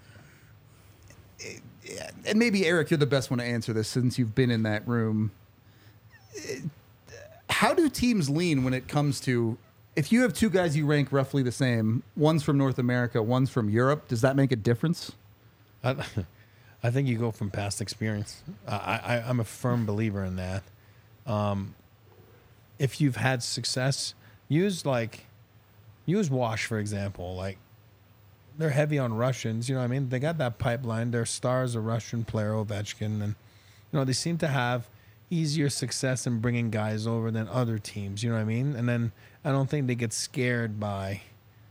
and maybe Eric, you're the best one to answer this since you've been in that room. How do teams lean when it comes to if you have two guys you rank roughly the same, one's from North America, one's from Europe, does that make a difference? I think you go from past experience. I'm a firm believer in that. If you've had success, use Wash, for example. Like, they're heavy on Russians. You know what I mean? They got that pipeline. Their star is a Russian player, Ovechkin. And, they seem to have easier success in bringing guys over than other teams. You know what I mean? And then I don't think they get scared by,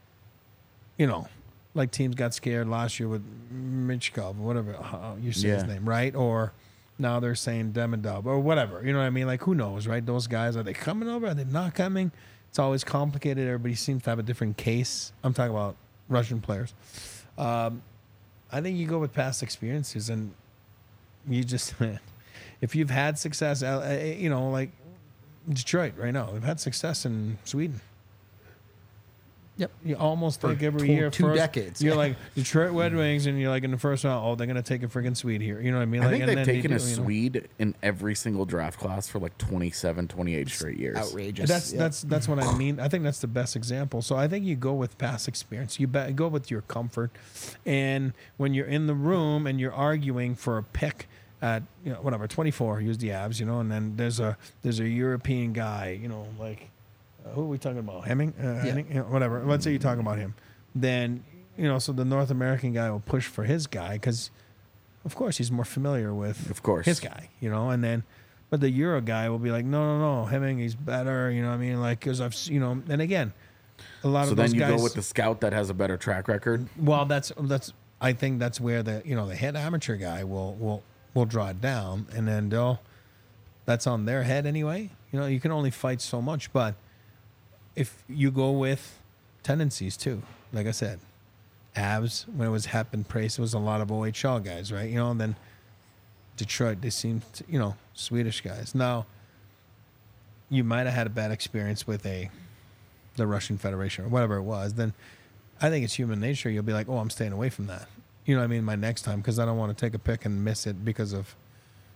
like teams got scared last year with Michkov, whatever you say his Yeah. name, right? Or now they're saying Demidov or whatever. You know what I mean? Like, who knows, right? Those guys, are they coming over? Are they not coming? It's always complicated. Everybody seems to have a different case. I'm talking about Russian players. I think you go with past experiences and you just, if you've had success, like Detroit right now, they've had success in Sweden. Yep. You almost like every two- year. two decades. You're like Detroit Red Wings, and you're like in the first round. Oh, they're gonna take a freaking Swede here. You know what I mean? I Like, think and they've then taken they a do, Swede in every single draft class for like 27, 28 straight years. Outrageous. That's what I mean. I think that's the best example. So I think you go with past experience. You go with your comfort, and when you're in the room and you're arguing for a pick at 24, use the Avs, and then there's a European guy, like. Who are we talking about? Hemming? Henning? Whatever. Let's say you're talking about him. Then, so the North American guy will push for his guy because, of course, he's more familiar with Of course. his guy, and then, but the Euro guy will be like, no, Hemming, he's better, you know what I mean? Like, because and again, a lot So of then those you guys. go with the scout that has a better track record. Well, I think that's where the head amateur guy will draw it down, and then that's on their head anyway. You can only fight so much, but if you go with tendencies too, like I said, Avs when it was Hep and Price, it was a lot of OHL guys, right? And then Detroit, they seemed Swedish guys. Now, you might have had a bad experience with the Russian Federation or whatever it was. Then I think it's human nature. You'll be like, oh, I'm staying away from that. You know what I mean? My next time, because I don't want to take a pick and miss it because of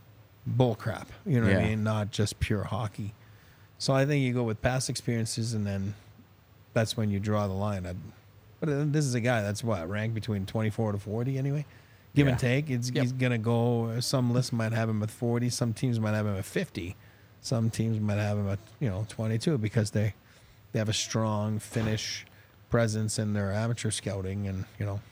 bull crap. You know what I Yeah. mean? Not just pure hockey. So I think you go with past experiences, and then that's when you draw the line. But this is a guy that's ranked between 24 to 40 anyway. Give and Yeah. take. He's going to go. Some lists might have him at 40. Some teams might have him at 50. Some teams might have him at 22 because they have a strong Finnish presence in their amateur scouting, and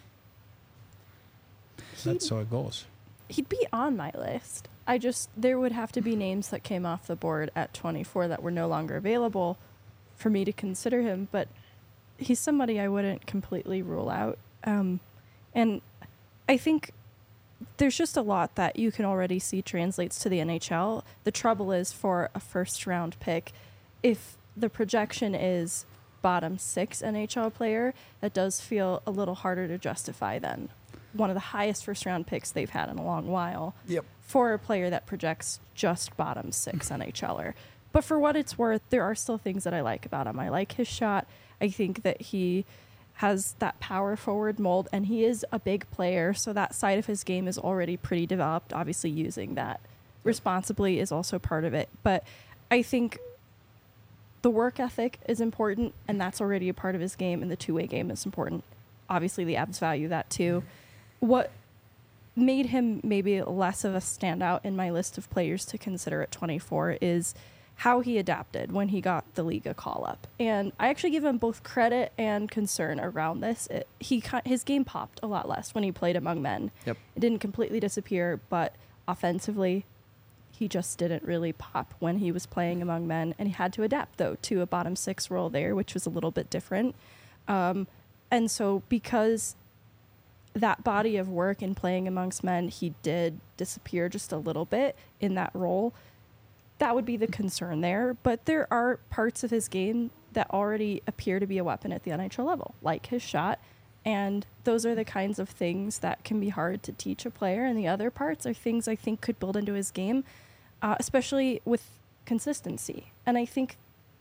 that's how it goes. He'd be on my list. There would have to be names that came off the board at 24 that were no longer available for me to consider him, but he's somebody I wouldn't completely rule out. And I think there's just a lot that you can already see translates to the NHL. The trouble is for a first round pick, if the projection is bottom 6 NHL player, that does feel a little harder to justify than one of the highest first round picks they've had in a long while. Yep. For a player that projects just bottom 6 NHLer. But for what it's worth, there are still things that I like about him. I like his shot. I think that he has that power forward mold, and he is a big player, so that side of his game is already pretty developed. Obviously, using that responsibly is also part of it. But I think the work ethic is important, and that's already a part of his game, and the two-way game is important. Obviously, the Avs value that too. What made him maybe less of a standout in my list of players to consider at 24 is how he adapted when he got the Liga call-up. And I actually give him both credit and concern around this. His game popped a lot less when he played among men. Yep. It didn't completely disappear, but offensively, he just didn't really pop when he was playing among men. And he had to adapt, though, to a bottom 6 role there, which was a little bit different. And so because that body of work in playing amongst men, he did disappear just a little bit in that role. That would be the concern there. But there are parts of his game that already appear to be a weapon at the NHL level, like his shot. And those are the kinds of things that can be hard to teach a player. And the other parts are things I think could build into his game, especially with consistency. And I think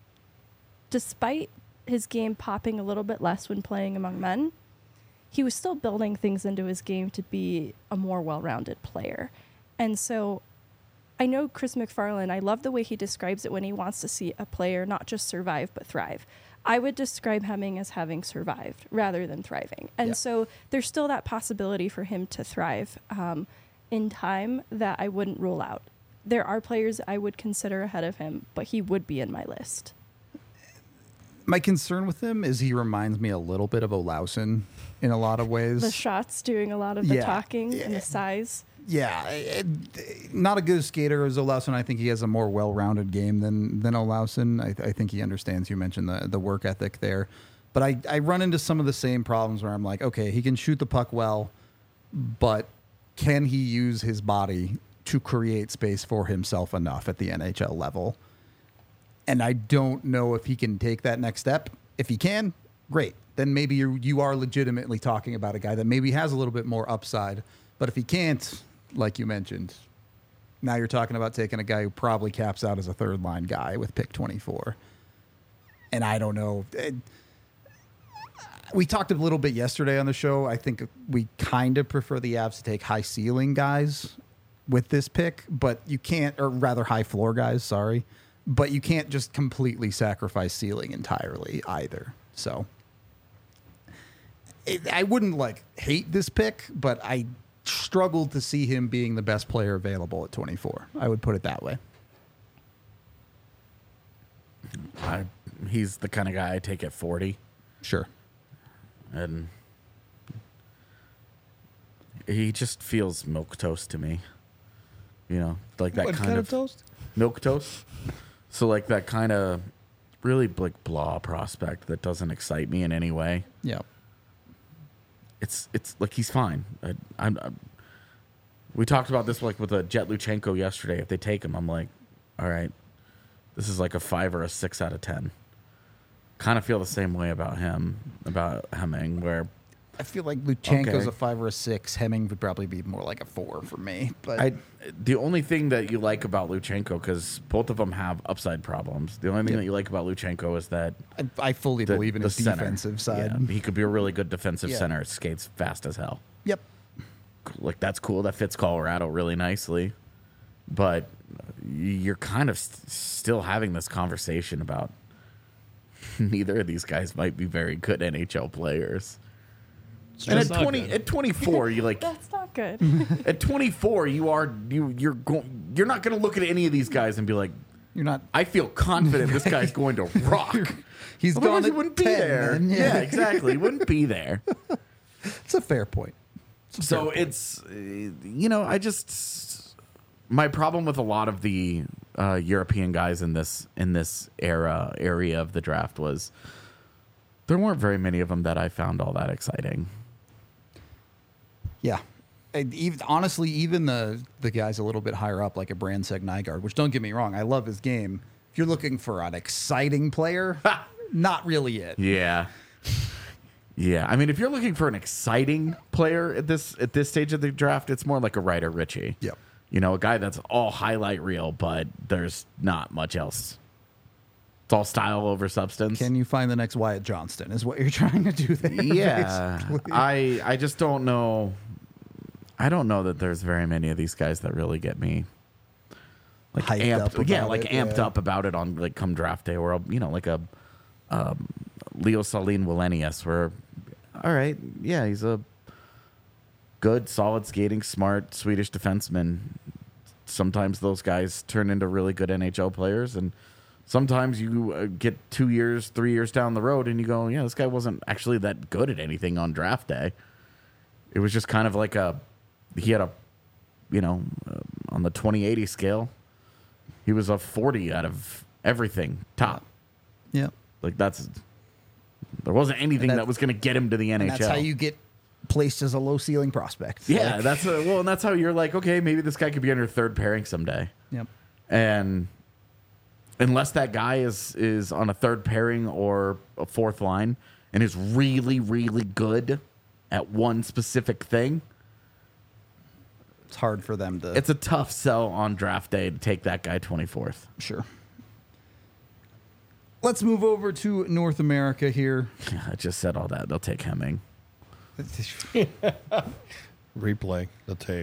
despite his game popping a little bit less when playing among men, he was still building things into his game to be a more well-rounded player. And so I know Chris McFarland, I love the way he describes it when he wants to see a player not just survive, but thrive. I would describe Hemming as having survived rather than thriving. And so there's still that possibility for him to thrive in time that I wouldn't rule out. There are players I would consider ahead of him, but he would be in my list. My concern with him is he reminds me a little bit of Olausson in a lot of ways. The shots doing a lot of the Yeah. talking and the size. Yeah, not a good skater as Olausson. I think he has a more well-rounded game than Olausson. I think he understands. You mentioned the work ethic there, but I run into some of the same problems where I'm like, okay, he can shoot the puck well, but can he use his body to create space for himself enough at the NHL level? And I don't know if he can take that next step. If he can, great. Then maybe you are legitimately talking about a guy that maybe has a little bit more upside. But if he can't, like you mentioned, now you're talking about taking a guy who probably caps out as a third line guy with pick 24. And I don't know. We talked a little bit yesterday on the show. I think we kind of prefer the Avs to take high ceiling guys with this pick, but you can't, or rather high floor guys, sorry. But you can't just completely sacrifice ceiling entirely either. So I wouldn't hate this pick, but I struggled to see him being the best player available at 24. I would put it that way. He's the kind of guy I take at 40. Sure. And he just feels milquetoast to me. Like that What kind of toast? Milquetoast. So like that kind of really blah prospect that doesn't excite me in any way. Yeah. It's like he's fine. We talked about this with Jet Luchenko yesterday. If they take him, I'm like, all right, this is like a 5 or a 6 out of 10. Kind of feel the same way about Hemming, where I feel like Luchenko's Okay. a 5 or a 6. Hemming would probably be more like a 4 for me. But the only thing that you like about Luchenko, because both of them have upside problems, the only thing that you like about Luchenko is that I fully believe in his center. defensive side. Yeah, he could be a really good defensive Yeah. center. Skates fast as hell. Yep. Like that's cool. That fits Colorado really nicely. but you're kind of still having this conversation about neither of these guys might be very good NHL players. And just not good. at 24, you like That's not good. at 24, you're not going to look at any of these guys and be like, You're not. I feel confident this guy's going to rock. He's Otherwise, gone he at wouldn't 10, be there. then, Yeah, exactly. He wouldn't be there. It's a fair point. So it's, I just, my problem with a lot of the European guys in this area of the draft was there weren't very many of them that I found all that exciting. Yeah. And honestly, even the guys a little bit higher up, like a Brandseck Nygaard, which don't get me wrong, I love his game. If you're looking for an exciting player, not really it. Yeah. Yeah. I mean, if you're looking for an exciting player at this stage of the draft, it's more like a Ryder Ritchie. Yep. A guy that's all highlight reel, but there's not much else. It's all style over substance. Can you find the next Wyatt Johnston is what you're trying to do there. Yeah. basically. I just don't know. I don't know that there's very many of these guys that really get me like Hyped amped up about amped it, up about it on like come draft day, or like a Leo Saline Wallenius, where all right, yeah, he's a good, solid skating, smart Swedish defenseman. Sometimes those guys turn into really good NHL players, and sometimes you get 2 years, 3 years down the road, and you go, yeah, this guy wasn't actually that good at anything on draft day. It was just kind of like he had on the 20/80 scale, he was a 40 out of everything top. Yeah. Like there wasn't anything that was going to get him to the NHL. And that's how you get placed as a low ceiling prospect. Yeah, Like, and that's how you're like, okay, maybe this guy could be on your third pairing someday. Yep. And unless that guy is on a third pairing or a fourth line and is really, really good at one specific thing, It's hard for them to. it's a tough sell on draft day to take that guy 24th. Sure. Let's move over to North America here. I just said all that. They'll take Hemming. Replay the tape.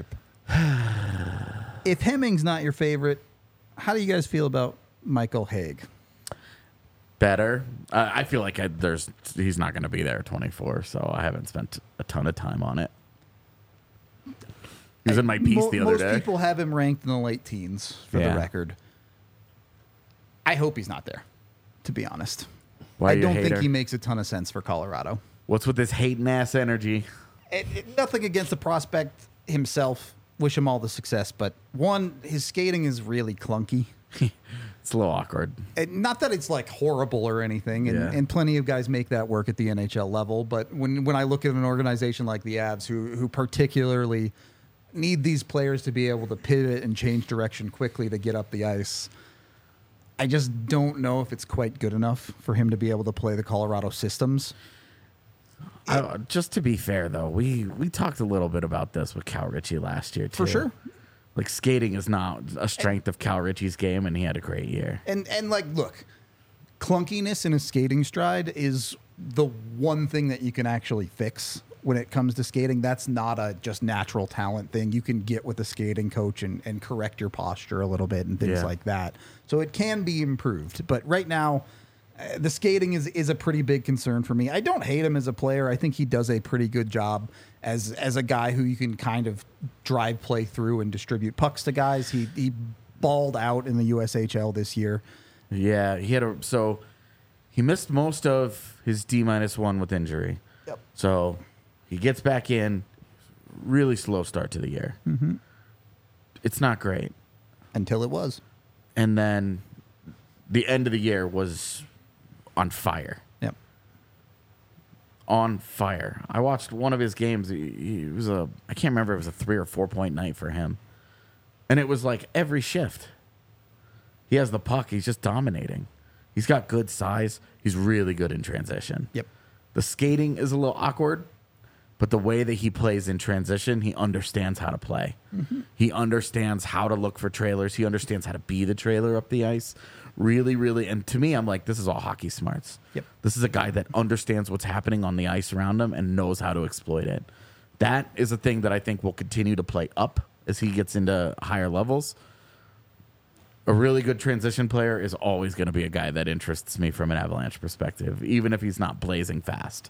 If Hemming's not your favorite, how do you guys feel about Michael Haig? Better. I feel like he's not going to be there at 24, so I haven't spent a ton of time on it. He was in my piece the other day. Most people have him ranked in the late teens, for Yeah. the record. I hope he's not there, to be honest. Why are I you a don't think hater? he makes a ton of sense for Colorado. What's with this hating ass energy? Nothing against the prospect himself. Wish him all the success. But one, his skating is really clunky. It's a little awkward. And not that it's like horrible or anything, and, Yeah. and plenty of guys make that work at the NHL level. But when I look at an organization like the Avs, who particularly need these players to be able to pivot and change direction quickly to get up the ice, I just don't know if it's quite good enough for him to be able to play the Colorado systems. Just to be fair, though, we talked a little bit about this with Cal Ritchie last year, too. For sure. Like, skating is not a strength of Cal Ritchie's game, and he had a great year. And like, look, clunkiness in a skating stride is the one thing that you can actually fix when it comes to skating. That's not a just natural talent thing. You can get with a skating coach and correct your posture a little bit and things Yeah. like that. So it can be improved. But right now, the skating is a pretty big concern for me. I don't hate him as a player. I think he does a pretty good job as a guy who you can kind of drive play through and distribute pucks to guys. He balled out in the USHL this year. Yeah, he missed most of his D-1 with injury. Yep. So he gets back in, really slow start to the year. Mm-hmm. It's not great. Until it was. And then the end of the year was on fire. Yep. On fire. I watched one of his games. He was I can't remember if it was a 3 or 4 point night for him. And it was like every shift. He has the puck. He's just dominating. He's got good size. He's really good in transition. Yep. The skating is a little awkward, but the way that he plays in transition, he understands how to play. Mm-hmm. He understands how to look for trailers. He understands how to be the trailer up the ice. Really, really. And to me, I'm like, this is all hockey smarts. Yep. This is a guy that understands what's happening on the ice around him and knows how to exploit it. That is a thing that I think will continue to play up as he gets into higher levels. a really good transition player is always going to be a guy that interests me from an Avalanche perspective, even if he's not blazing fast.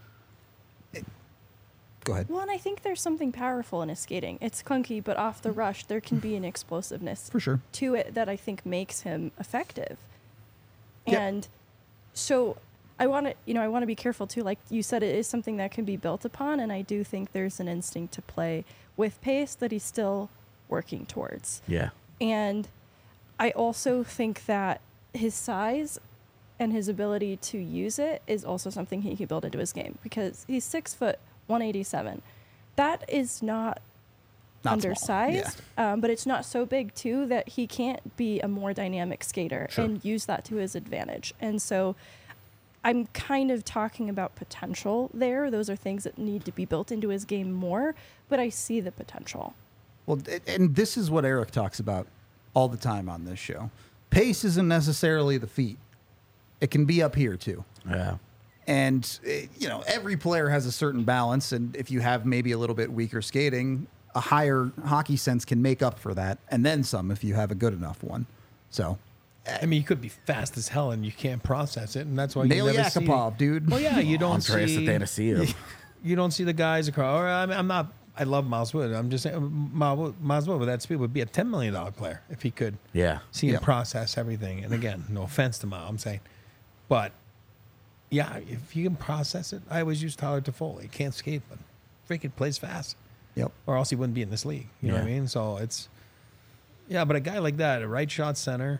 Go ahead. Well, and I think there's something powerful in his skating. It's clunky, but off the rush, there can be an explosiveness For sure. to it that I think makes him effective. Yep. And so I want to be careful too. Like you said, it is something that can be built upon, and I do think there's an instinct to play with pace that he's still working towards. Yeah. And I also think that his size and his ability to use it is also something he can build into his game, because he's 6 foot 187. That is not Not undersized, small. but it's not so big too that he can't be a more dynamic skater Sure. and use that to his advantage. And so I'm kind of talking about potential there. Those are things that need to be built into his game more, but I see the potential. Well, and this is what Eric talks about all the time on this show. Pace isn't necessarily the feet. It can be up here too. Yeah. And, every player has a certain balance. And if you have maybe a little bit weaker skating, a higher hockey sense can make up for that. And then some if you have a good enough one. So, I mean, you could be fast as hell and you can't process it, and that's why Nail you never see. Yakupov, dude. Well, yeah, you don't Andreas see. Athanasiou. You don't see the guys across. Or I'm not. I love Miles Wood. I'm just saying, Miles Wood with that speed would be a $10 million player if he could Yeah. see and Yeah. process everything. And again, no offense to Miles, I'm saying, but yeah, if you can process it, I always use Tyler Toffoli. He can't skate, but freaking plays fast, Yep. or else he wouldn't be in this league. You know what I Yeah. mean? So it's but a guy like that, a right shot center,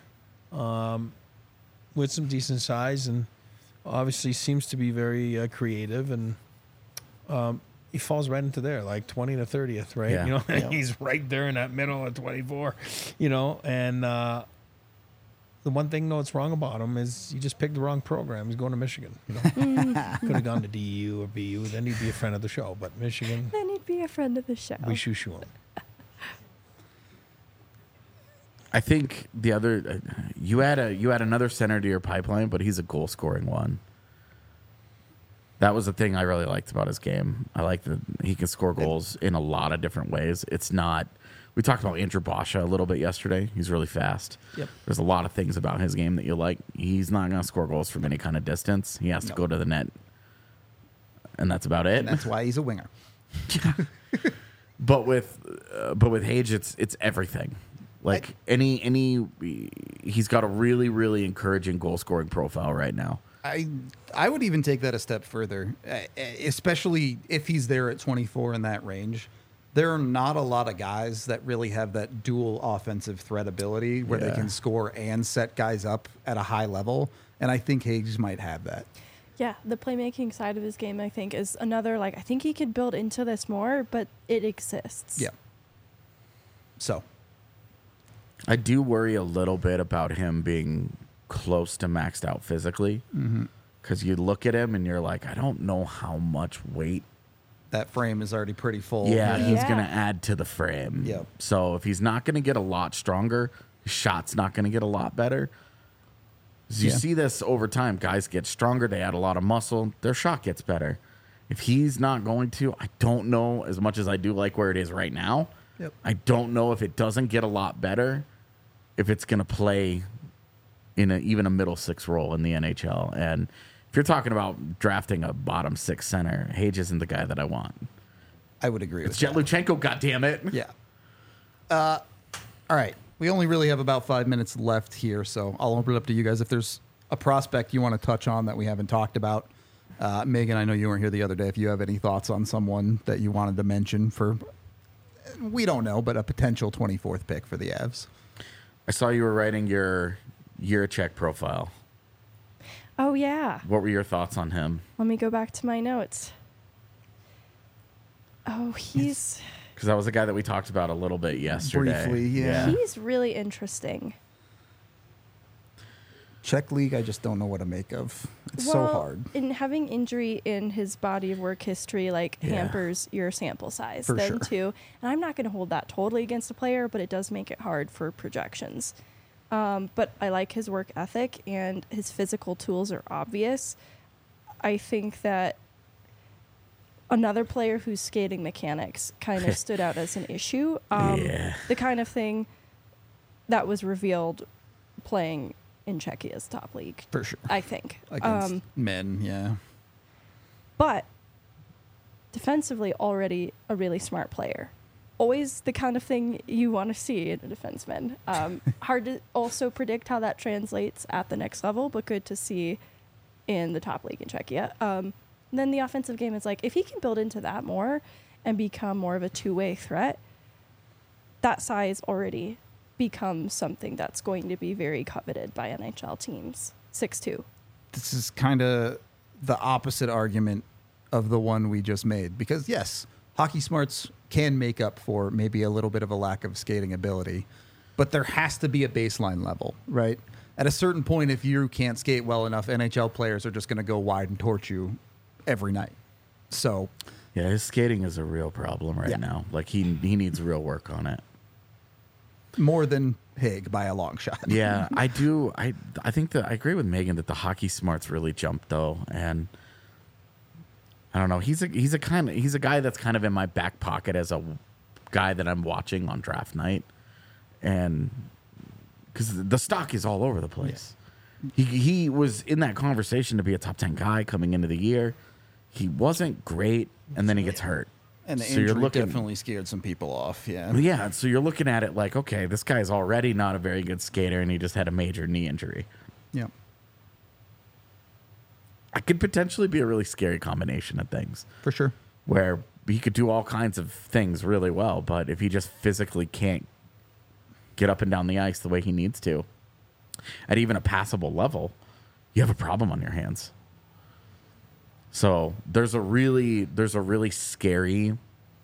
with some decent size, and obviously seems to be very creative, and he falls right into there, like 20 to 30th, right? Yeah. You know, Yeah. he's right there in that middle of 24, and the one thing that's wrong about him is he just picked the wrong program. He's going to Michigan. Could have gone to DU or BU, then he'd be a friend of the show. But Michigan, Then he'd be a friend of the show. we shoo him. I think the other you add another center to your pipeline, but he's a goal scoring one. That was the thing I really liked about his game. I like that he can score goals in a lot of different ways. It's not. We talked about Andrew Basha a little bit yesterday. He's really fast. Yep. There's a lot of things about his game that you like. He's not going to score goals from any kind of distance. He has to No. go to the net, and that's about it. And that's why he's a winger. But with Hage, it's everything. Like he's got a really, really encouraging goal scoring profile right now. I would even take that a step further, especially if he's there at 24 in that range. There are not a lot of guys that really have that dual offensive threat ability where they Yeah. can score and set guys up at a high level. And I think Higgs might have that. Yeah, the playmaking side of his game, I think, is another, I think he could build into this more, but it exists. Yeah. So, I do worry a little bit about him being close to maxed out physically. Because you look at him and you're like, I don't know how much weight. that frame is already pretty full. Yeah, he's Yeah. going to add to the frame. Yep. So if he's not going to get a lot stronger, his shot's not going to get a lot better. So you Yeah. see this over time. Guys get stronger. They add a lot of muscle. Their shot gets better. If he's not going to, I don't know, as much as I do like where it is right now, Yep. I don't know if it doesn't get a lot better, if it's going to play in even a middle six role in the NHL. And if you're talking about drafting a bottom six center, Hage isn't the guy that I want. I would agree It's with that. Jetluchenko, goddammit. Yeah. All right. We only really have about 5 minutes left here, so I'll open it up to you guys. If there's a prospect you want to touch on that we haven't talked about, Megan, I know you weren't here the other day. If you have any thoughts on someone that you wanted to mention for, we don't know, but a potential 24th pick for the Avs. I saw you were writing your Jiricek profile. Oh, yeah. What were your thoughts on him? Let me go back to my notes. Oh, he's Because that was a guy that we talked about a little bit yesterday. Briefly, yeah. he's really interesting. Czech League, I just don't know what to make of. It's so Well, hard. And having injury in his body of work history Yeah. hampers your sample size For then sure. too. And I'm not going to hold that totally against a player, but it does make it hard for projections. But I like his work ethic and his physical tools are obvious. I think that another player whose skating mechanics kind of stood out as an issue. Yeah. The kind of thing that was revealed playing in Czechia's top league, For sure. I think. Against men, yeah. But defensively, already a really smart player. Always the kind of thing you want to see in a defenseman. Hard to also predict how that translates at the next level, but good to see in the top league in Czechia. Then the offensive game is like, if he can build into that more and become more of a two-way threat, that size already becomes something that's going to be very coveted by NHL teams. 6'2". This is kind of the opposite argument of the one we just made. Because, yes, hockey smarts can make up for maybe a little bit of a lack of skating ability, but there has to be a baseline level, right? At a certain point, if you can't skate well enough, NHL players are just going to go wide and torch you every night. So, Yeah, his skating is a real problem right Yeah. now. Like he needs real work on it. more than Haig by a long shot. Yeah, I do. I think that I agree with Megan that the hockey smarts really jumped though, and I don't know. He's a guy that's kind of in my back pocket as a guy that I'm watching on draft night, and because the stock is all over the place. He was in that conversation to be a top 10 guy coming into the year. He wasn't great, and then he gets hurt. And the So you're injury looking- definitely scared some people off. Yeah. Yeah, so you're looking at it like, okay, this guy's already not a very good skater, and he just had a major knee injury. Yeah. It could potentially be a really scary combination of things For sure. where he could do all kinds of things really well, but if he just physically can't get up and down the ice the way he needs to, at even a passable level, you have a problem on your hands. So there's a really scary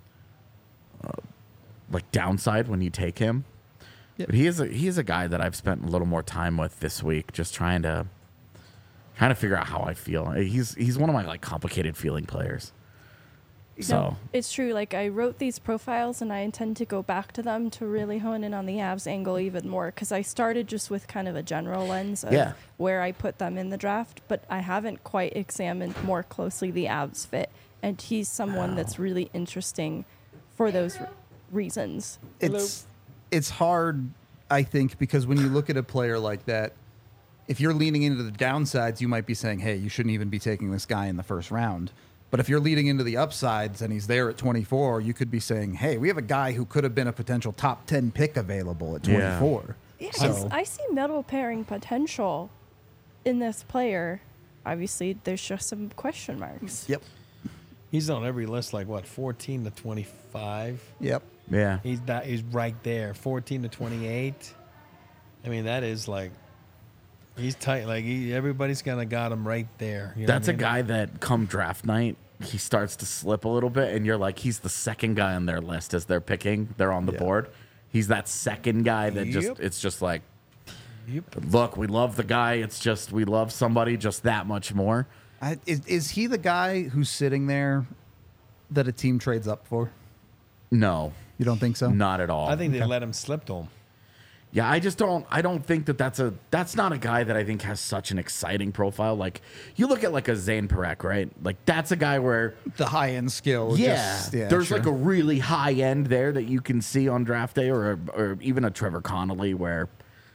like downside when you take him. Yep. But he is a guy that I've spent a little more time with this week, just trying to figure out how I feel. He's one of my like complicated feeling players. So No, it's true. Like, I wrote these profiles and I intend to go back to them to really hone in on the Avs angle even more, because I started just with kind of a general lens of Yeah. where I put them in the draft, but I haven't quite examined more closely the Avs fit. And he's someone that's really interesting for those reasons. It's hard, I think, because when you look at a player like that, if you're leaning into the downsides, you might be saying, hey, you shouldn't even be taking this guy in the first round. But if you're leading into the upsides and he's there at 24, you could be saying, hey, we have a guy who could have been a potential top 10 pick available at 24. Yeah, So- I see middle pairing potential in this player. Obviously, there's just some question marks. Yep. He's on every list, like what, 14 to 25. Yep. yeah. He's right there, 14 to 28. I mean, that is like, he's tight. Like everybody's gonna got him right there. You know That's what I a mean? guy that come draft night, he starts to slip a little bit, and you're like, he's the second guy on their list as they're picking. They're on the Yeah. board. He's that second guy that Yep. it's just like, Yep. look, we love the guy. It's just we love somebody just that much more. Is he the guy who's sitting there that a team trades up for? No, You don't think so? not at all. I think they let him slip to him. Yeah, I don't think that's not a guy that I think has such an exciting profile. Like you look at like a Zane Parekh, right? Like that's a guy where The high end skill. there's sure. like a really high end there that you can see on draft day, or even a Trevor Connolly, where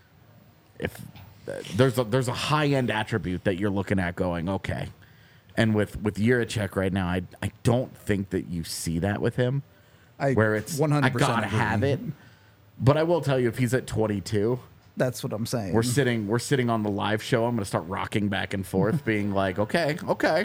if there's a high end attribute that you're looking at going, okay. And with Jiricek right now, I don't think that you see that with him, where it's 100% I gotta agree. have it. But I will tell you, if he's at 22, That's what I'm saying. we're sitting on the live show. I'm gonna start rocking back and forth, being like, okay.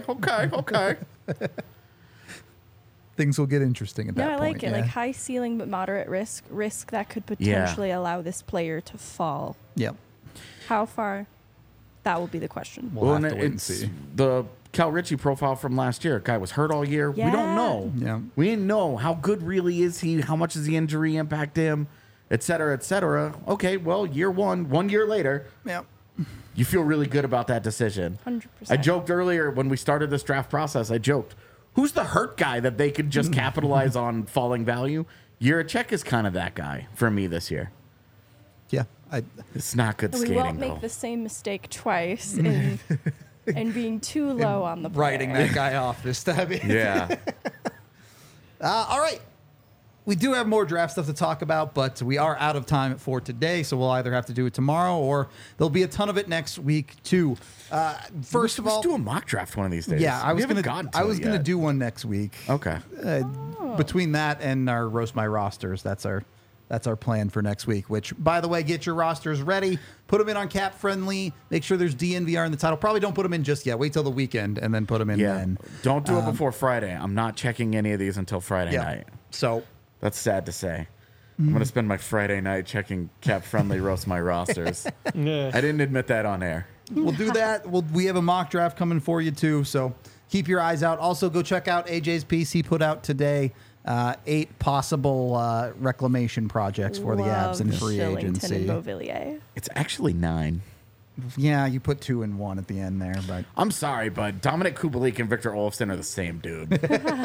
Things will get interesting at that Yeah, I point. like it. Like high ceiling but moderate risk that could potentially allow this player to fall. Yep. How far? That will be the question. We'll have and to wait and it's see. the Cal Ritchie profile from last year. Guy was hurt all year. We Yeah. don't know. Yeah. We didn't know how good really is he. How much does the injury impact him, et cetera, et cetera. Okay, well, year 1 year later, Yep. you feel really good about that decision. 100%. I joked earlier when we started this draft process. I joked, who's the hurt guy that they could just capitalize on falling value? Jiricek is kind of that guy for me this year. Yeah. It's not good And we skating won't though. make the same mistake twice in and being too low on the player. Writing that guy off this time. Yeah. All right. we do have more draft stuff to talk about, but we are out of time for today, so we'll either have to do it tomorrow or there'll be a ton of it next week too. First of all, let's do a mock draft one of these days. yeah, I was gonna it do one next week. Okay. Between that and our roast my rosters, that's our plan for next week. Which, by the way, get your rosters ready, put them in on Cap Friendly. Make sure there's DNVR in the title. Probably don't put them in just yet. Wait till the weekend and then put them in. Yeah. Then Don't do it before Friday. I'm not checking any of these until Friday night. So That's sad to say. I'm going to spend my Friday night checking Cap Friendly roast my rosters. Yeah. I didn't admit that on air. we'll do that. We have a mock draft coming for you too. So keep your eyes out. Also, go check out AJ's piece he put out today. 8 possible reclamation projects for the Avs in free Shillington agency. and Beauvillier. It's actually 9. Yeah, you put 2 and 1 at the end there, but I'm sorry, but Dominic Kubalik and Victor Olofsson are the same dude.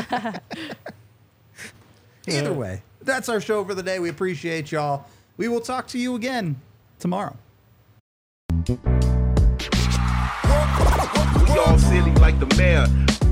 either way, that's our show for the day. We appreciate y'all. We will talk to you again tomorrow. We all silly like the mayor.